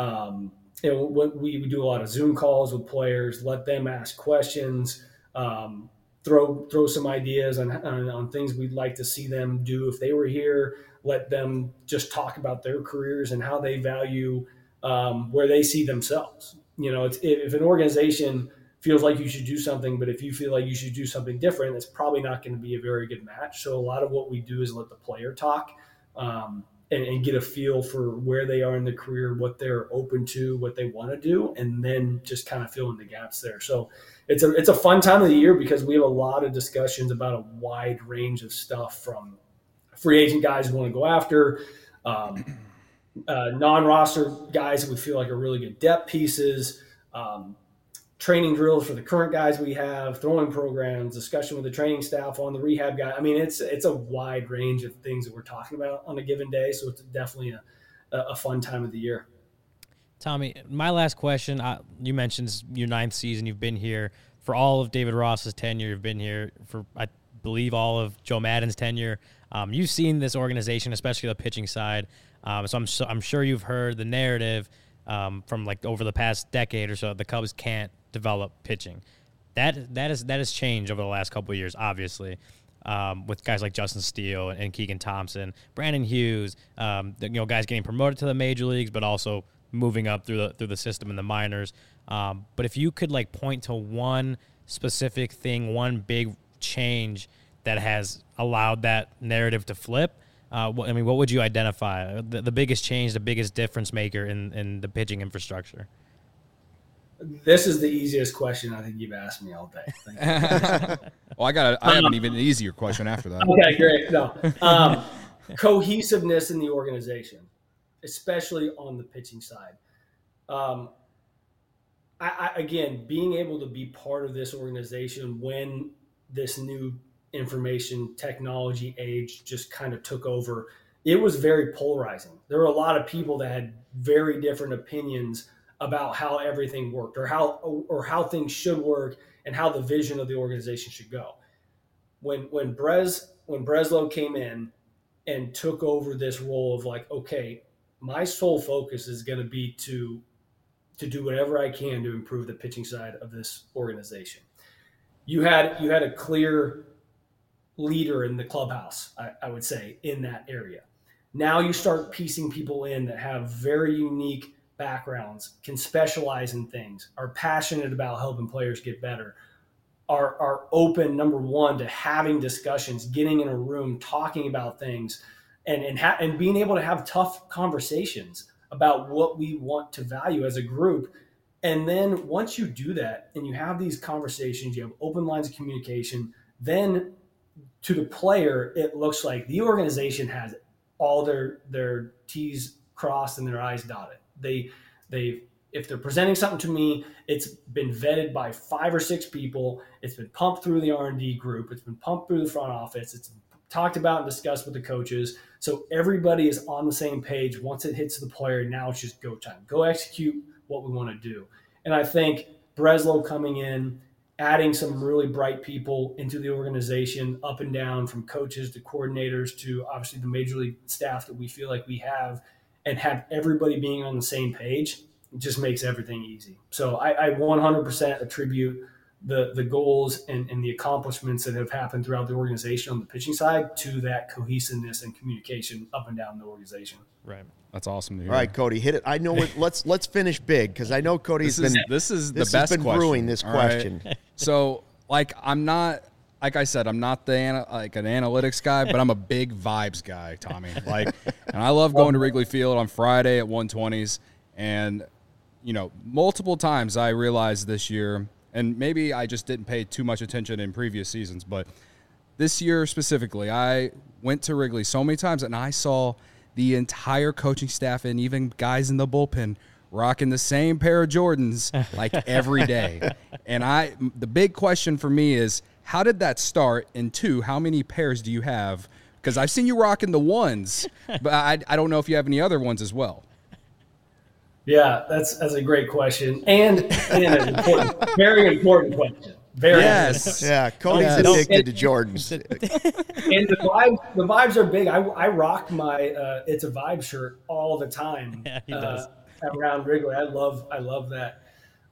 we do a lot of Zoom calls with players, let them ask questions, throw some ideas on things we'd like to see them do if they were here. Let them just talk about their careers and how they value where they see themselves. If an organization feels like you should do something, but if you feel like you should do something different, it's probably not going to be a very good match. So a lot of what we do is let the player talk and get a feel for where they are in their career, what they're open to, what they want to do, and then just kind of fill in the gaps there. So it's a fun time of the year because we have a lot of discussions about a wide range of stuff, from free agent guys we want to go after, non-roster guys that we feel like are really good depth pieces, training drills for the current guys we have, throwing programs, discussion with the training staff on the rehab guy. I mean, it's a wide range of things that we're talking about on a given day. So it's definitely a fun time of the year. Tommy, my last question, you mentioned your 9th season. You've been here for all of David Ross's tenure. You've been here for, I believe, all of Joe Maddon's tenure. You've seen this organization, especially the pitching side. So I'm sure you've heard the narrative from like over the past decade or so. The Cubs can't develop pitching. That has changed over the last couple of years, obviously, with guys like Justin Steele and Keegan Thompson, Brandon Hughes, guys getting promoted to the major leagues, but also moving up through the system in the minors. But if you could like point to one specific thing, one big change that has allowed that narrative to flip, what would you identify? The biggest change, the biggest difference maker in the pitching infrastructure? This is the easiest question I think you've asked me all day. Well, I have an even easier question after that. Okay, great. No, cohesiveness in the organization, especially on the pitching side. Again, being able to be part of this organization when this new information technology age just kind of took over, it was very polarizing. There were a lot of people that had very different opinions about how everything worked or how things should work and how the vision of the organization should go. When Breslow came in and took over this role of like, okay, my sole focus is going to be to do whatever I can to improve the pitching side of this organization. You had a clear leader in the clubhouse, I would say, in that area. Now you start piecing people in that have very unique backgrounds, can specialize in things, are passionate about helping players get better, are open, number one, to having discussions, getting in a room, talking about things, and being able to have tough conversations about what we want to value as a group. And then once you do that and you have these conversations, you have open lines of communication, then to the player, it looks like the organization has all their T's crossed and their I's dotted. If they're presenting something to me, it's been vetted by 5 or 6 people. It's been pumped through the R&D group. It's been pumped through the front office. It's talked about and discussed with the coaches. So everybody is on the same page. Once it hits the player, now it's just go time. Go execute what we want to do. And I think Breslow coming in, adding some really bright people into the organization, up and down, from coaches to coordinators to obviously the major league staff that we feel like we have, and have everybody being on the same page, it just makes everything easy. So I 100% attribute the goals and the accomplishments that have happened throughout the organization on the pitching side to that cohesiveness and communication up and down the organization. Right. That's awesome to hear. All right, Cody, hit it. I know it. Let's finish big, because I know Cody's this is the best has been question. brewing this question. Right? So, I'm not an analytics guy, but I'm a big vibes guy, Tommy. And I love going to Wrigley Field on Friday at 120s, and multiple times I realized this year, and maybe I just didn't pay too much attention in previous seasons, but this year specifically, I went to Wrigley so many times and I saw the entire coaching staff and even guys in the bullpen rocking the same pair of Jordans like every day. And the big question for me is, how did that start? And 2, how many pairs do you have? Because I've seen you rocking the ones, but I don't know if you have any other ones as well. Yeah, that's a great question, and an important, very important question. Very Yes. Yeah, Cody's Yeah, addicted to Jordans. And the vibes are big. I rock my It's a Vibe shirt all the time. Yeah, he does. Around Wrigley. I love that.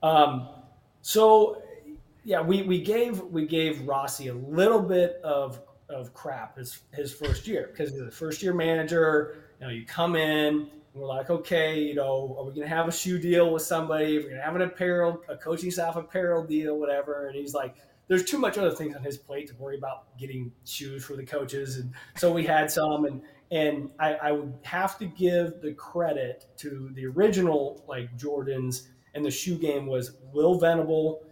So yeah, we gave Rossi a little bit of crap his first year because he's a first year manager. You know, you come in, and we're like, okay, you know, are we gonna have a shoe deal with somebody? If we're gonna have a coaching staff apparel deal, whatever. And he's like, there's too much other things on his plate to worry about getting shoes for the coaches. And so we had some, and I would have to give the credit to the original like Jordans and the shoe game was Will Venable.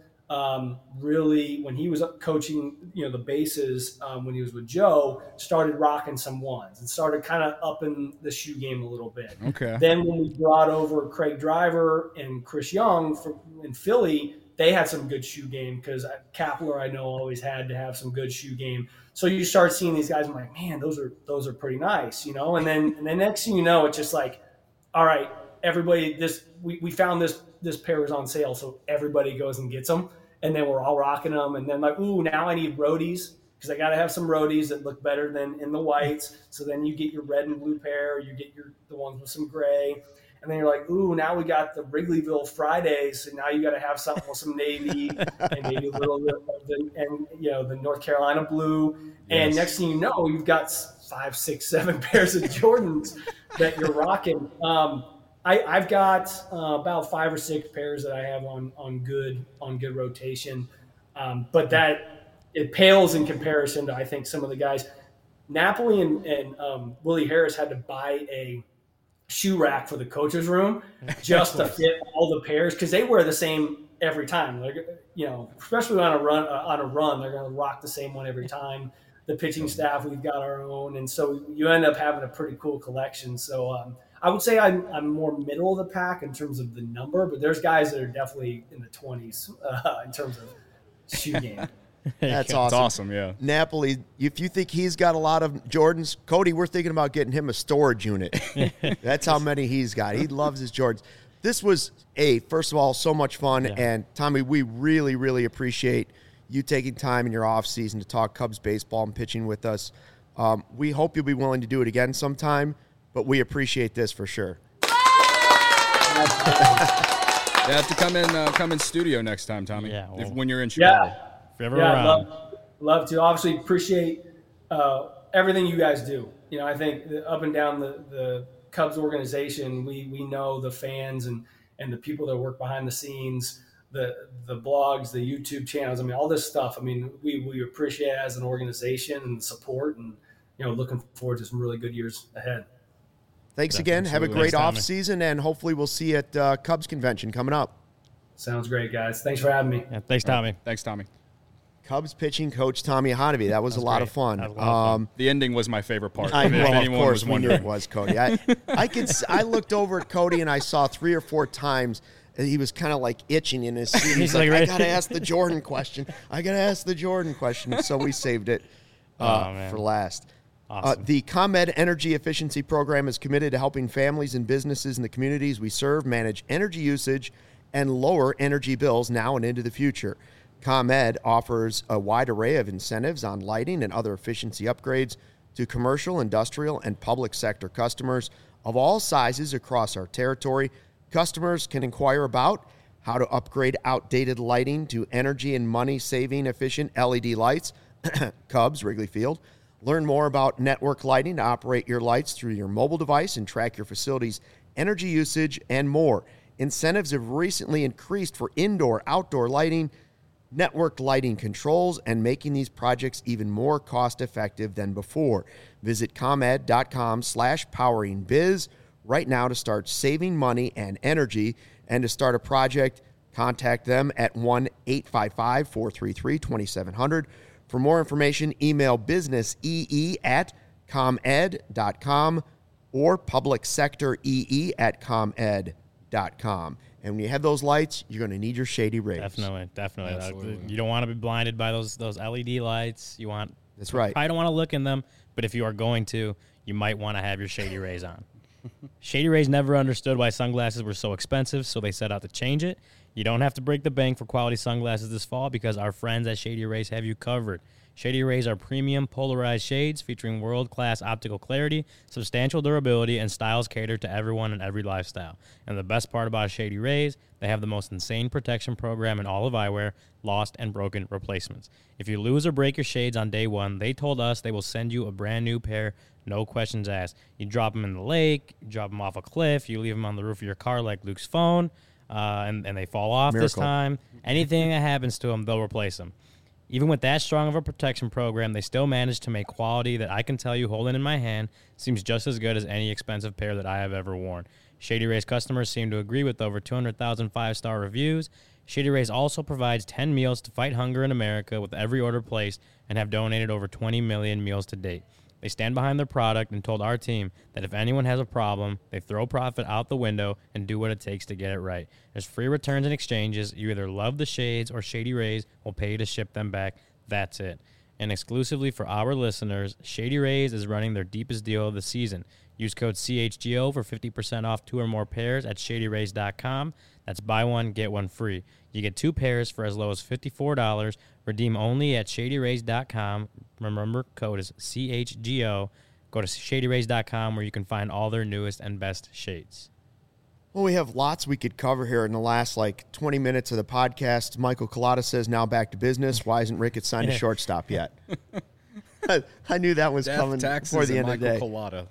Really, when he was coaching, you know, the bases, when he was with Joe, started rocking some ones and started kind of upping the shoe game a little bit. Okay. Then when we brought over Craig Driver and Chris Young in Philly, they had some good shoe game because Kapler, I know, always had to have some good shoe game. So you start seeing these guys, I'm like, man, those are pretty nice, you know. And then next thing you know, it's just like, all right, everybody, we found this pair is on sale, so everybody goes and gets them. And then we're all rocking them. And then like, ooh, now I need roadies because I got to have some roadies that look better than in the whites. So then you get your red and blue pair, you get the ones with some gray. And then you're like, ooh, now we got the Wrigleyville Fridays. So now you got to have something with some navy and maybe a little bit of the North Carolina blue. And next thing you know, you've got 5, 6, 7 pairs of Jordans that you're rocking. I've got about 5 or 6 pairs that I have on good rotation, but that it pales in comparison to I think some of the guys. Napoli and Willie Harris had to buy a shoe rack for the coach's room just to fit all the pairs because they wear the same every time. Like, you know, especially on a run, they're going to rock the same one every time. The pitching staff, we've got our own, and so you end up having a pretty cool collection. So. I would say I'm more middle of the pack in terms of the number, but there's guys that are definitely in the 20s in terms of shoe game. That's awesome. That's awesome, yeah. Napoli, if you think he's got a lot of Jordans, Cody, we're thinking about getting him a storage unit. That's how many he's got. He loves his Jordans. This was, first of all, so much fun. Yeah. And, Tommy, we really, really appreciate you taking time in your off season to talk Cubs baseball and pitching with us. We hope you'll be willing to do it again sometime. But we appreciate this for sure. You have to come in studio next time, Tommy. Yeah, when you're in Chicago. Love to. Obviously, appreciate everything you guys do. You know, I think up and down the Cubs organization, we know the fans and the people that work behind the scenes, the blogs, the YouTube channels. I mean, all this stuff. I mean, we appreciate it as an organization and the support, and you know, looking forward to some really good years ahead. Thanks again. Have a great off season, and hopefully we'll see you at Cubs convention coming up. Sounds great, guys. Thanks for having me. Yeah, thanks, Tommy. Thanks, Tommy. Cubs pitching coach Tommy Honaby. That was a lot of fun. The ending was my favorite part. Of course, we knew it was, Cody. I looked over at Cody, and I saw 3 or 4 times he was kind of like itching in his seat. He's like, I got to ask the Jordan question. So we saved it for last. Awesome. The ComEd Energy Efficiency Program is committed to helping families and businesses in the communities we serve manage energy usage and lower energy bills now and into the future. ComEd offers a wide array of incentives on lighting and other efficiency upgrades to commercial, industrial, and public sector customers of all sizes across our territory. Customers can inquire about how to upgrade outdated lighting to energy and money-saving efficient LED lights, Cubs, Wrigley Field. Learn more about network lighting to operate your lights through your mobile device and track your facility's energy usage and more. Incentives have recently increased for indoor, outdoor lighting, network lighting controls, and making these projects even more cost-effective than before. Visit ComEd.com/poweringbiz right now to start saving money and energy. And to start a project, contact them at 1-855-433-2700. For more information, email businessee@comed.com or publicsectoree@comed.com. And when you have those lights, you're going to need your Shady Rays. Definitely. Absolutely. You don't want to be blinded by those LED lights. That's right. I don't want to look in them, but if you are going to, you might want to have your Shady Rays on. Shady Rays never understood why sunglasses were so expensive, so they set out to change it. You don't have to break the bank for quality sunglasses this fall because our friends at Shady Rays have you covered. Shady Rays are premium polarized shades featuring world-class optical clarity, substantial durability, and styles catered to everyone and every lifestyle. And the best part about Shady Rays, they have the most insane protection program in all of eyewear, lost and broken replacements. If you lose or break your shades on day one, they told us they will send you a brand new pair, no questions asked. You drop them in the lake, you drop them off a cliff, you leave them on the roof of your car like Luke's phone, and they fall off this time. Anything that happens to them, they'll replace them. Even with that strong of a protection program, they still managed to make quality that I can tell you holding in my hand seems just as good as any expensive pair that I have ever worn. Shady Rays customers seem to agree with over 200,000 five-star reviews. Shady Rays also provides 10 meals to fight hunger in America with every order placed and have donated over 20 million meals to date. They stand behind their product and told our team that if anyone has a problem, they throw profit out the window and do what it takes to get it right. There's free returns and exchanges. You either love the shades or Shady Rays will pay you to ship them back. That's it. And exclusively for our listeners, Shady Rays is running their deepest deal of the season. Use code CHGO for 50% off 2 or more pairs at ShadyRays.com. That's buy one, get one free. You get 2 pairs for as low as $54. Redeem only at ShadyRays.com. Remember, code is CHGO. Go to ShadyRays.com where you can find all their newest and best shades. Well, we have lots we could cover here in the last 20 minutes of the podcast. Michael Collada says, now back to business. Why isn't Ricketts signed a shortstop yet? I knew that was coming before the end of the day. Collada.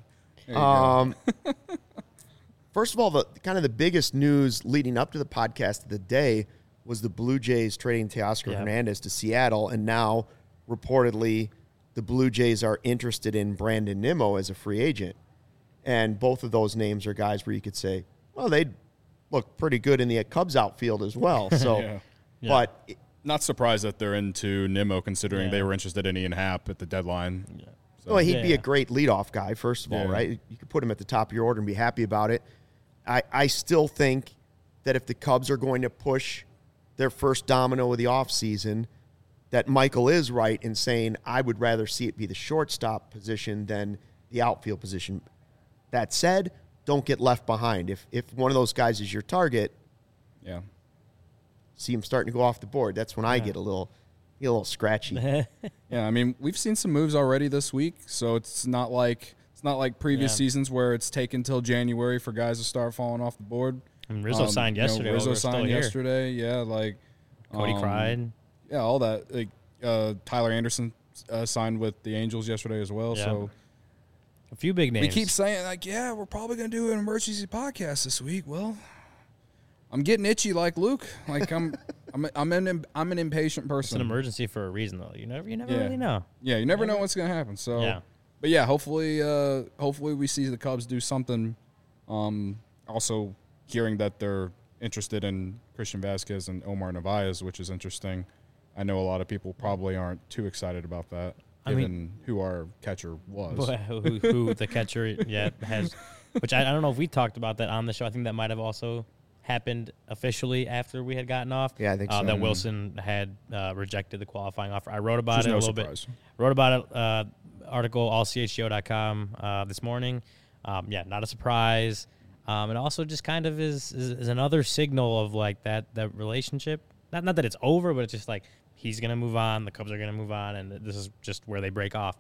First of all, the biggest news leading up to the podcast of the day was the Blue Jays trading Teoscar Hernandez to Seattle, and now reportedly the Blue Jays are interested in Brandon Nimmo as a free agent. And both of those names are guys where you could say, well, they'd look pretty good in the Cubs outfield as well. So, but not surprised that they're into Nimmo, considering they were interested in Ian Happ at the deadline. Yeah. So, well, he'd be a great leadoff guy, first of all, right? You could put him at the top of your order and be happy about it. I still think that if the Cubs are going to push their first domino of the offseason, that Michael is right in saying I would rather see it be the shortstop position than the outfield position. That said, don't get left behind. If one of those guys is your target, see him starting to go off the board. That's when I get a little scratchy. Yeah, I mean, we've seen some moves already this week, so it's not like previous seasons where it's taken till January for guys to start falling off the board. And Rizzo signed yesterday. Rizzo signed yesterday. Yeah, Cody cried. Yeah, all that. Tyler Anderson signed with the Angels yesterday as well. Yeah. So a few big names. We keep saying we're probably going to do an emergency podcast this week. Well, I'm getting itchy like Luke. I'm an impatient person. It's an emergency for a reason, though. You never really know. Yeah, you never know what's going to happen. So, but yeah, hopefully we see the Cubs do something. Also, hearing that they're interested in Christian Vasquez and Omar Narvaez, which is interesting. I know a lot of people probably aren't too excited about that, given who our catcher was. Who the catcher has, which I don't know if we talked about that on the show. I think that might have also happened officially after we had gotten off. Yeah, I think so. That Wilson had rejected the qualifying offer. I wrote about it a little bit. Wrote about it, article allchgo.com this morning. Not a surprise. It also just kind of is another signal of that relationship. Not that it's over, but it's just he's going to move on, the Cubs are going to move on, and this is just where they break off.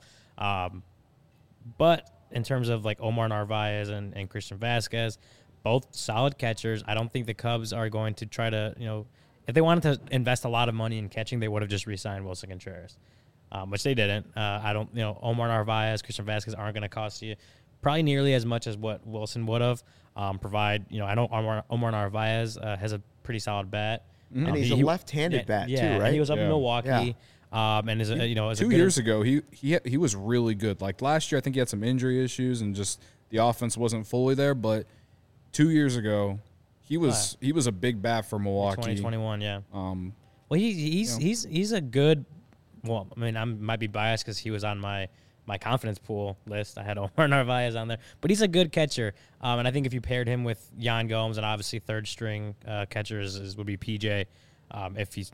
But in terms of Omar Narvaez and Christian Vasquez, both solid catchers. I don't think the Cubs are going to try to, if they wanted to invest a lot of money in catching, they would have just re-signed Wilson Contreras, which they didn't. Omar Narvaez, Christian Vasquez aren't going to cost you probably nearly as much as what Wilson would have. I know Omar Narvaez has a pretty solid bat. Mm-hmm. And he's a left-handed bat too, right? And he was up in Milwaukee. And as 2 years ago, he was really good. Last year, I think he had some injury issues and just the offense wasn't fully there. But 2 years ago, he was a big bat for Milwaukee. 2021, yeah. Well, he's a good. Well, I mean, I might be biased because he was on my confidence pool list. I had Omar Narvaez on there, but he's a good catcher. And I think if you paired him with Yan Gomes, and obviously third string catchers would be PJ, if he's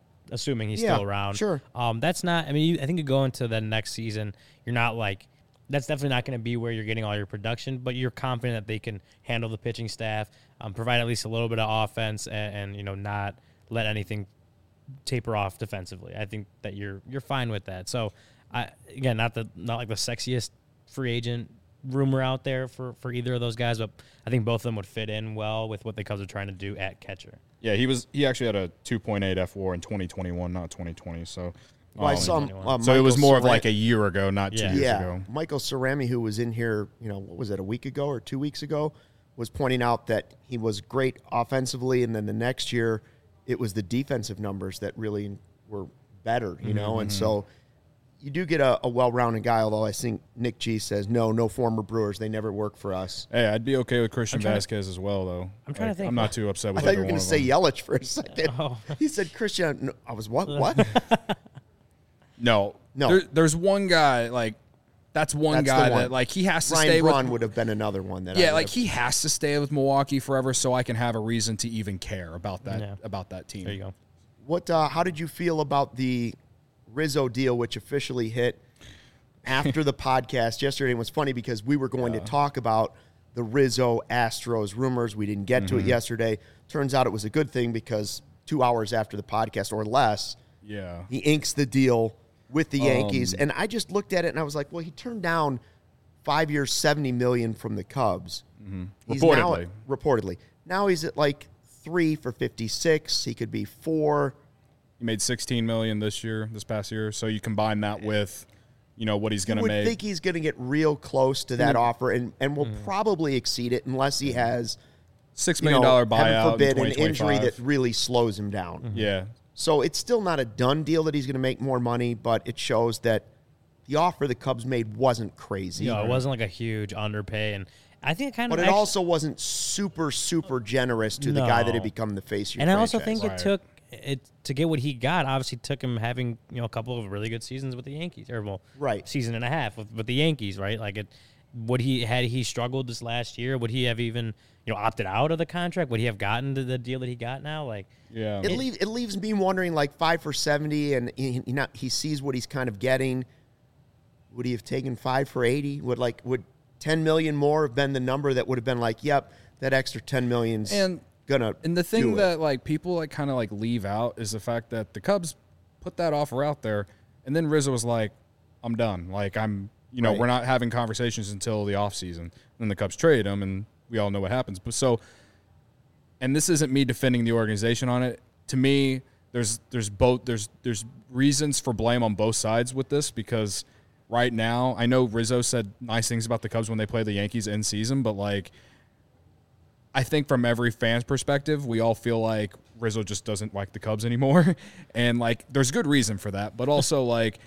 assuming he's still around. Sure. That's not. I mean, I think you go into the next season, you're not that's definitely not going to be where you're getting all your production, but you're confident that they can handle the pitching staff, provide at least a little bit of offense, and not let anything taper off defensively. I think that you're fine with that. So, again, not like the sexiest free agent rumor out there for either of those guys, but I think both of them would fit in well with what the Cubs are trying to do at catcher. Yeah, he actually had a 2.8 F4 in 2021, not 2020. So. Well, I saw so it was more of like a year ago, not 2 years ago. Michael Cerami, who was in here, what was it, a week ago or 2 weeks ago, was pointing out that he was great offensively, and then the next year it was the defensive numbers that really were better, and so you do get a well-rounded guy, although I think Nick G says, no former Brewers, they never work for us. Hey, I'd be okay with Christian Vasquez as well, though. I'm trying to think. I'm not too upset with I thought you were going to say Yelich for a second. Oh. He said Christian. No, I was, what? No. There's one guy, that's one guy that, he has to stay with. Ryan Braun would have been another one that he has to stay with Milwaukee forever so I can have a reason to even care about that team. There you go. What? How did you feel about the Rizzo deal, which officially hit after the podcast yesterday? It was funny because we were going to talk about the Rizzo Astros rumors. We didn't get to it yesterday. Turns out it was a good thing because 2 hours after the podcast or less, he inks the deal with the Yankees. And I just looked at it and I was like, well, he turned down 5 years, $70 million from the Cubs. He's reportedly. Now he's at 3 for 56. He could be 4. He made $16 million this past year. So you combine that with, what he's going to make. I think he's going to get real close to that offer and will probably exceed it unless he has $6 million buyout. Heaven forbid, an injury that really slows him down. Yeah. So it's still not a done deal that he's going to make more money, but it shows that the offer the Cubs made wasn't crazy. No, it wasn't a huge underpay, and I think it But it also wasn't super generous to the guy that had become the face of your franchise. I also think it took to get what he got. Obviously, took him having a couple of really good seasons with the Yankees, season and a half with the Yankees, right? Would he struggled this last year? Would he have even opted out of the contract? Would he have gotten to the deal that he got now? It leaves me wondering 5 for 70, and he sees what he's kind of getting. Would he have taken 5 for 80? Would $10 million more have been the number that would have been yep, that extra $10 million's gonna. And the thing that people kind of leave out is the fact that the Cubs put that offer out there, and then Rizzo was like, "I'm done. We're not having conversations until the offseason." Then the Cubs trade him, and we all know what happens. But and this isn't me defending the organization on it. To me, there's reasons for blame on both sides with this because right now, I know Rizzo said nice things about the Cubs when they play the Yankees in season, but I think from every fan's perspective, we all feel like Rizzo just doesn't like the Cubs anymore, and there's good reason for that. But also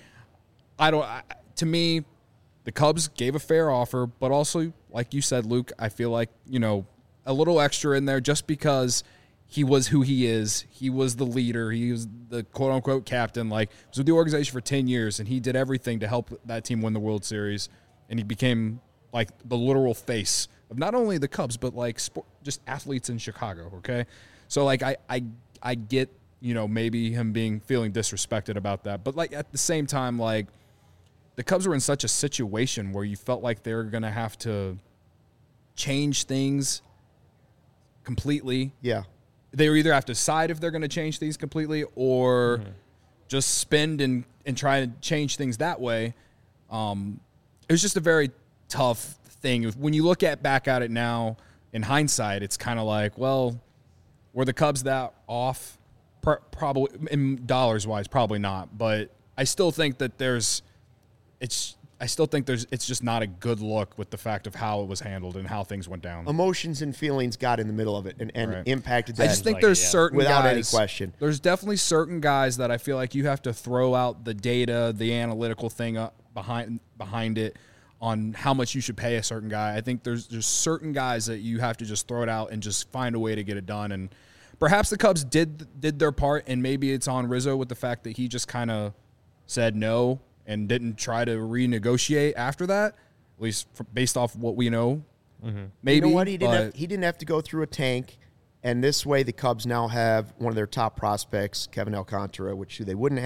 to me, the Cubs gave a fair offer, but also, like you said, Luke, I feel a little extra in there just because he was who he is. He was the leader. He was the quote-unquote captain. He was with the organization for 10 years, and he did everything to help that team win the World Series. And he became, the literal face of not only the Cubs, but, just athletes in Chicago, okay? So, I get, maybe him feeling disrespected about that. But, at the same time, the Cubs were in such a situation where you felt like they were going to have to change things completely. Yeah. They either have to decide if they're going to change things completely or just spend and try to change things that way. It was just a very tough thing. When you look back at it now, in hindsight, it's kind of well, were the Cubs that off? Probably, in dollars-wise, probably not. But I still think that it's just not a good look with the fact of how it was handled and how things went down. Emotions and feelings got in the middle of it and impacted that. I just think there's certain without guys, any question. There's definitely certain guys that I feel like you have to throw out the data, the analytical thing behind it on how much you should pay a certain guy. I think there's certain guys that you have to just throw it out and just find a way to get it done. And perhaps the Cubs did their part, and maybe it's on Rizzo with the fact that he just kind of said no and didn't try to renegotiate after that, at least based off what we know. Maybe. You know what? He didn't have to go through a tank, and this way the Cubs now have one of their top prospects, Kevin Alcantara, which they wouldn't have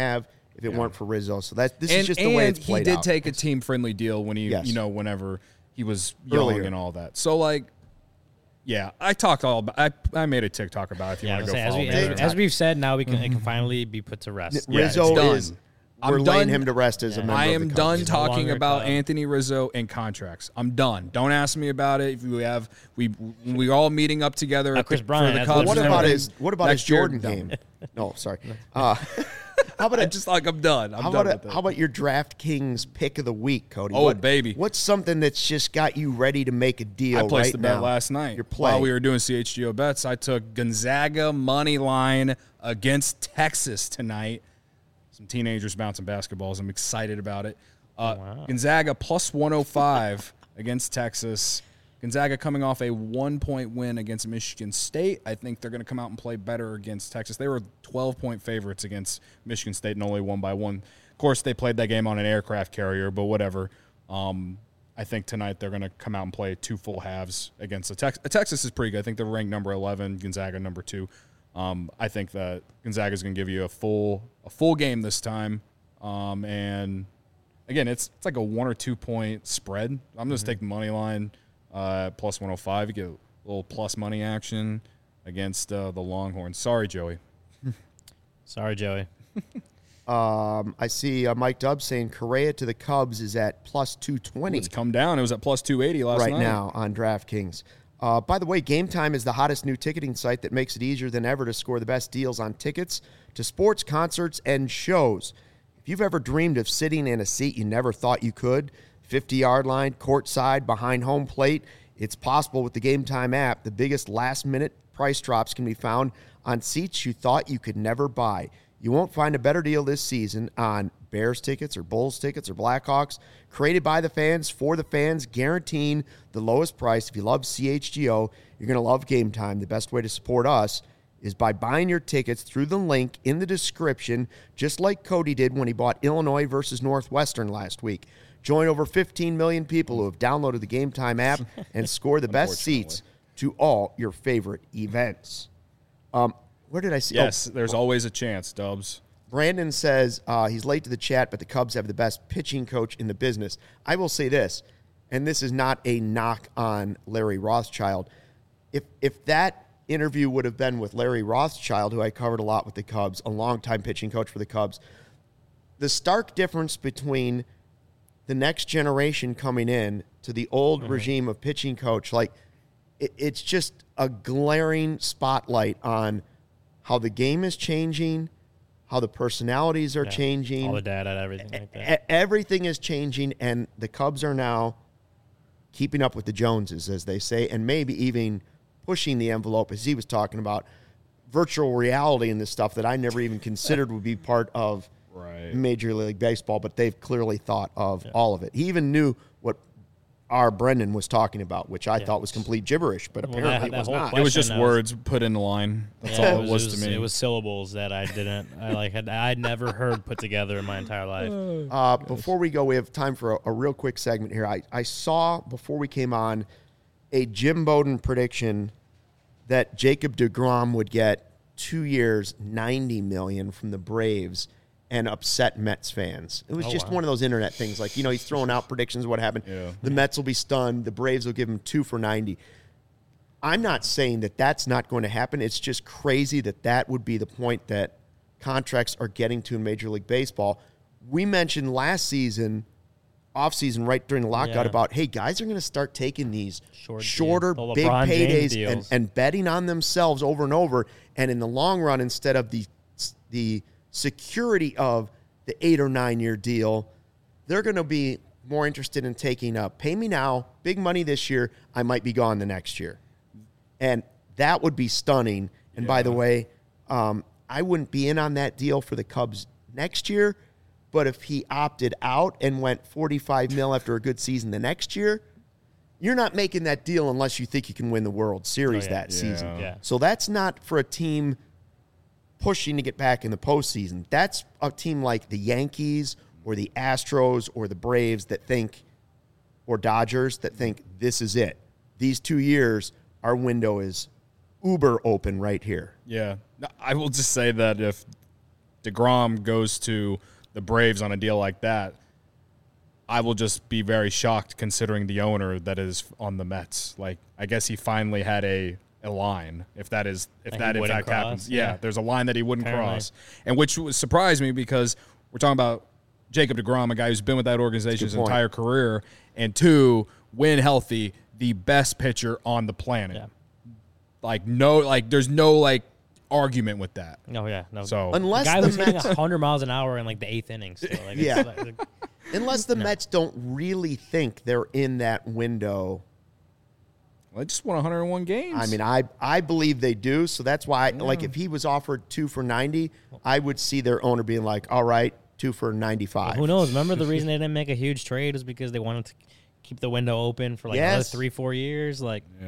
if it weren't for Rizzo. So this is just the way it's played he did out. take a team-friendly deal when he, whenever he was young Earlier. and all that. So, like, yeah, I talked all about I made a TikTok about it if you want to go follow me. As we've said, now it can finally be put to rest. Rizzo done. is we're laying him to rest as a member I of am the done Cubs. talking longer about Cub. Anthony Rizzo and contracts. I'm done. Don't ask me about it. If we all meeting up together at Chris for Bryant, the that's Cubs. What and about everything. his Next year, Jordan done. game? No, sorry. How about I just like I'm done. I'm done with it. how about your DraftKings pick of the week, Cody? Oh, baby. What's something that's just got you ready to make a deal? I placed right the bet now? last night. You're playing. While we were doing CHGO bets, I took Gonzaga money line against Texas tonight. Some teenagers bouncing basketballs. I'm excited about it. Gonzaga plus 105 against Texas. Gonzaga coming off a 1-point win against Michigan State. I think they're going to come out and play better against Texas. They were 12-point favorites against Michigan State and only won by 1. Of course, they played that game on an aircraft carrier, but whatever. I think tonight they're going to come out and play 2 full halves against Texas is pretty good. I think they're ranked number 11, Gonzaga number 2. I think that Gonzaga is going to give you a full game this time. And again, it's like a 1 or 2 point spread. I'm just taking the money line plus 105. You get a little plus money action against the Longhorns. Sorry, Joey. Sorry, Joey. I see Mike Dubbs saying Correa to the Cubs is at plus 220 It's come down. It was at plus 280 last night. right now on DraftKings. By the way, Game Time is the hottest new ticketing site that makes it easier than ever to score the best deals on tickets to sports, concerts, and shows. If you've ever dreamed of sitting in a seat you never thought you could, 50-yard line, courtside, behind home plate, it's possible with the Game Time app. The biggest last-minute price drops can be found on seats you thought you could never buy. You won't find a better deal this season on Bears tickets or Bulls tickets or Blackhawks. Created by the fans, for the fans, guaranteeing the lowest price. If you love CHGO, you're going to love Game Time. The best way to support us is by buying your tickets through the link in the description, just like Cody did when he bought Illinois versus Northwestern last week. Join over 15 million people who have downloaded the Game Time app and score the best seats to all your favorite events. Where did I see? Yes, there's always a chance, Dubs. Brandon says he's late to the chat, but the Cubs have the best pitching coach in the business. I will say this, and this is not a knock on Larry Rothschild. If that interview would have been with Larry Rothschild, who I covered a lot with the Cubs, a longtime pitching coach for the Cubs, the stark difference between the next generation coming in to the old regime of pitching coach, like it's just a glaring spotlight on how the game is changing, how the personalities are changing. All the data and everything like that. Everything is changing, and the Cubs are now keeping up with the Joneses, as they say, and maybe even pushing the envelope, as he was talking about, virtual reality and this stuff that I never even considered would be part of Major League Baseball, but they've clearly thought of all of it. He even knew what our Brendan was talking about, which I thought was complete gibberish, but apparently it was not. It was just words put in the line. That's all it was to me. It was syllables that I didn't. I'd never heard put together in my entire life. Before we go, we have time for a real quick segment here. I saw, before we came on, a Jim Bowden prediction that Jacob deGrom would get 2 years, $90 million from the Braves and upset Mets fans. It was one of those internet things. Like, he's throwing out predictions of what happened. Yeah. The Mets will be stunned. The Braves will give him 2 for 90. I'm not saying that that's not going to happen. It's just crazy that would be the point that contracts are getting to in Major League Baseball. We mentioned last season, offseason, right during the lockout, about, hey, guys are going to start taking these shorter, big paydays and betting on themselves over and over. And in the long run, instead of the security of the 8 or 9 year deal, they're going to be more interested in taking pay me now, big money this year, I might be gone the next year. And that would be stunning. And by the way, I wouldn't be in on that deal for the Cubs next year, but if he opted out and went $45 million after a good season the next year, you're not making that deal unless you think you can win the World Series that season. Yeah. So that's not for a team pushing to get back in the postseason. That's a team like the Yankees or the Astros or the Braves that think, or Dodgers, that think this is it. These 2 years, our window is uber open right here. Yeah. I will just say that if DeGrom goes to the Braves on a deal like that, I will just be very shocked considering the owner that is on the Mets. Like, I guess he finally had a line, if that in fact happens. Yeah, there's a line that he wouldn't cross, and which surprised me because we're talking about Jacob deGrom, a guy who's been with that organization his entire career, and 2, when healthy, the best pitcher on the planet. Yeah. There's no argument with that. Oh yeah, no. So unless the guy the was hitting Mets, 100 miles an hour in the 8th inning. So unless the Mets don't really think they're in that window. Well, they just won 101 games. I mean, I believe they do. So that's why, if he was offered 2 for $90, I would see their owner being like, all right, 2 for $95. Well, who knows? Remember the reason they didn't make a huge trade was because they wanted to keep the window open for another 3-4 years.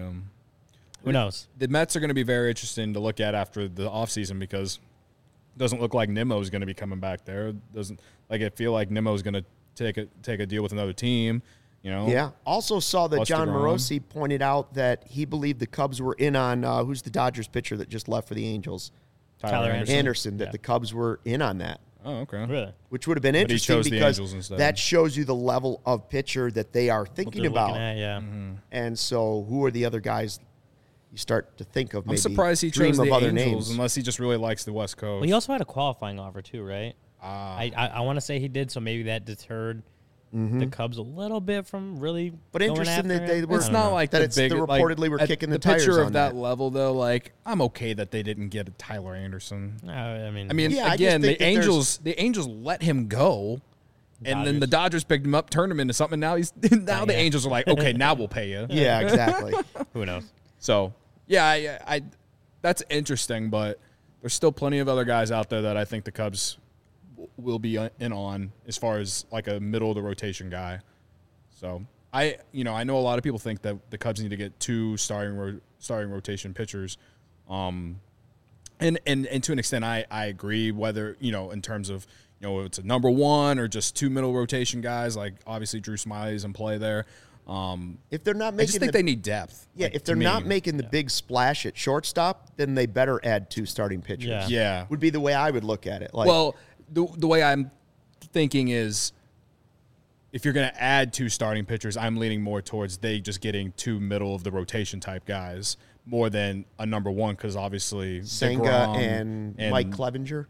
Who knows? The Mets are going to be very interesting to look at after the offseason because it doesn't look like Nimmo is going to be coming back there. It doesn't feel like Nimmo is going to take a deal with another team. Yeah. Also saw that John DeGrom. Morosi pointed out that he believed the Cubs were in on who's the Dodgers pitcher that just left for the Angels, Tyler Anderson. That the Cubs were in on that. Oh, okay. Really? Which would have been interesting because instead. that shows you the level of pitcher that they are thinking about. And so, who are the other guys you start to think of? Maybe I'm surprised he chose the Angels unless he just really likes the West Coast. Well, he also had a qualifying offer too, right? I want to say he did, so maybe that deterred the Cubs a little bit from really. But interesting that they were. It's not like that. They reportedly were kicking the tires pitcher on of that level, though. I'm okay that they didn't get a Tyler Anderson. I mean, again, the Angels let him go, and then the Dodgers picked him up, turned him into something. Now the Angels are like, okay, now we'll pay you. Yeah, exactly. Who knows? So I that's interesting, but there's still plenty of other guys out there that I think the Cubs will be in on as far as a middle of the rotation guy. So I know a lot of people think that the Cubs need to get 2 starting rotation pitchers. And to an extent I agree, whether, in terms of, it's a number 1 or just 2 middle rotation guys, obviously Drew Smyly's in play there. If they're not making I just think they need depth. Yeah, if they're not making the big splash at shortstop, then they better add 2 starting pitchers. Yeah. Would be the way I would look at it. The way I'm thinking is if you're going to add 2 starting pitchers, I'm leaning more towards they just getting 2 middle of the rotation type guys more than a number 1 because obviously Senga and Mike Clevenger.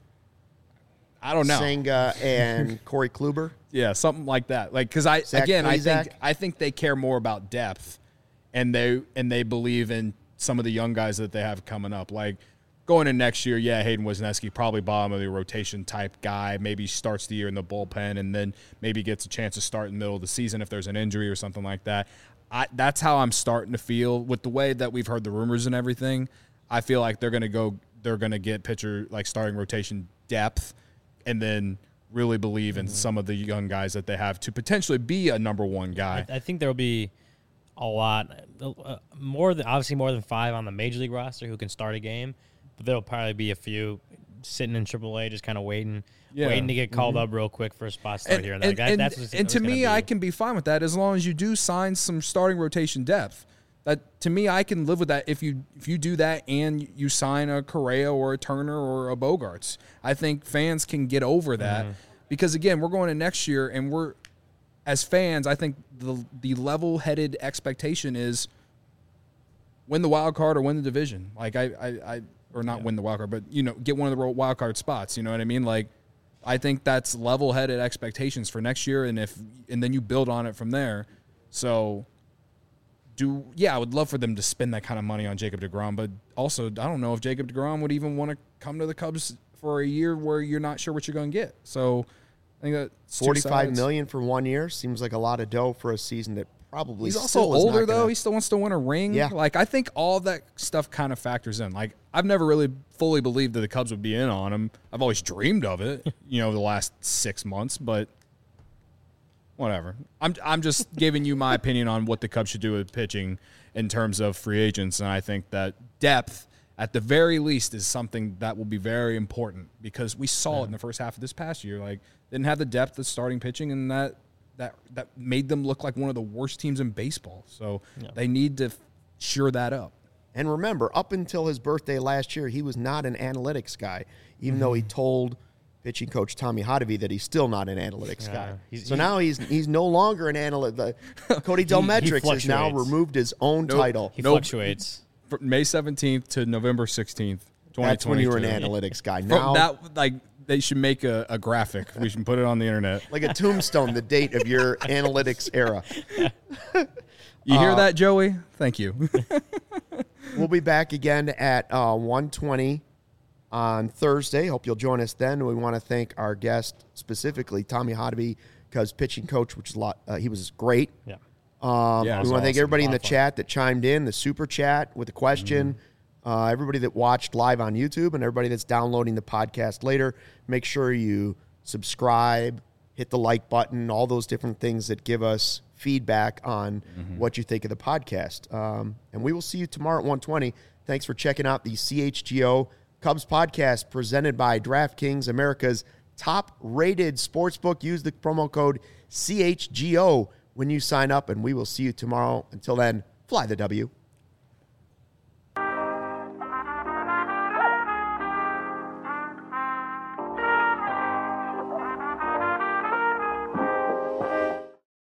I don't know. Senga and Corey Kluber. Yeah, something like that. Because I think they care more about depth, and they believe in some of the young guys that they have coming up. Going in next year, Hayden Wesneski, probably bottom of the rotation type guy. Maybe starts the year in the bullpen and then maybe gets a chance to start in the middle of the season if there's an injury or something like that. That's how I'm starting to feel with the way that we've heard the rumors and everything. I feel like they're going to get pitcher starting rotation depth and then really believe in some of the young guys that they have to potentially be a number 1 guy. I think there will be a lot more than 5 on the major league roster who can start a game. But there'll probably be a few sitting in AAA, just kind of waiting to get called up real quick for a spot start here and there. And to me, I can be fine with that as long as you do sign some starting rotation depth. That to me, I can live with that if you do that and you sign a Correa or a Turner or a Bogarts. I think fans can get over that because again, we're going to next year and we're as fans. I think the level-headed expectation is win the wild card or win the division. Or not win the wild card, but get one of the wild card spots. You know what I mean? I think that's level-headed expectations for next year, and then you build on it from there. So, I would love for them to spend that kind of money on Jacob deGrom, but also I don't know if Jacob deGrom would even want to come to the Cubs for a year where you're not sure what you're going to get. So, I think that $45 million for 1 year seems like a lot of dough for a season that probably. He's also older though. He still wants to win a ring. Yeah. I think all that stuff kind of factors in. I've never really fully believed that the Cubs would be in on him. I've always dreamed of it, the last 6 months, but whatever. I'm just giving you my opinion on what the Cubs should do with pitching in terms of free agents, and I think that depth at the very least is something that will be very important because we saw it in the first half of this past year. Didn't have the depth of starting pitching, and that made them look like one of the worst teams in baseball. So they need to shore that up. And remember, up until his birthday last year, he was not an analytics guy, even though he told pitching coach Tommy Hotovy that he's still not an analytics guy. he's Now he's no longer an analyst. Cody Delmetrics has now removed his own title. He fluctuates. From May 17th to November 16th, 2022. That's when you were an analytics guy. Now They should make a graphic. We should put it on the internet. Like a tombstone, the date of your analytics era. You hear that, Joey? Thank you. We'll be back again at 1:20 on Thursday. Hope you'll join us then. We want to thank our guest, specifically Tommy Hotovy, because pitching coach, which is he was great. Yeah. We want to thank everybody in the chat that chimed in, the super chat with a question, everybody that watched live on YouTube, and everybody that's downloading the podcast later. Make sure you subscribe, hit the like button, all those different things that give us feedback on what you think of the podcast. And we will see you tomorrow at 1:20. Thanks for checking out the CHGO Cubs podcast presented by DraftKings, America's top-rated sportsbook. Use the promo code CHGO when you sign up, and we will see you tomorrow. Until then, fly the W.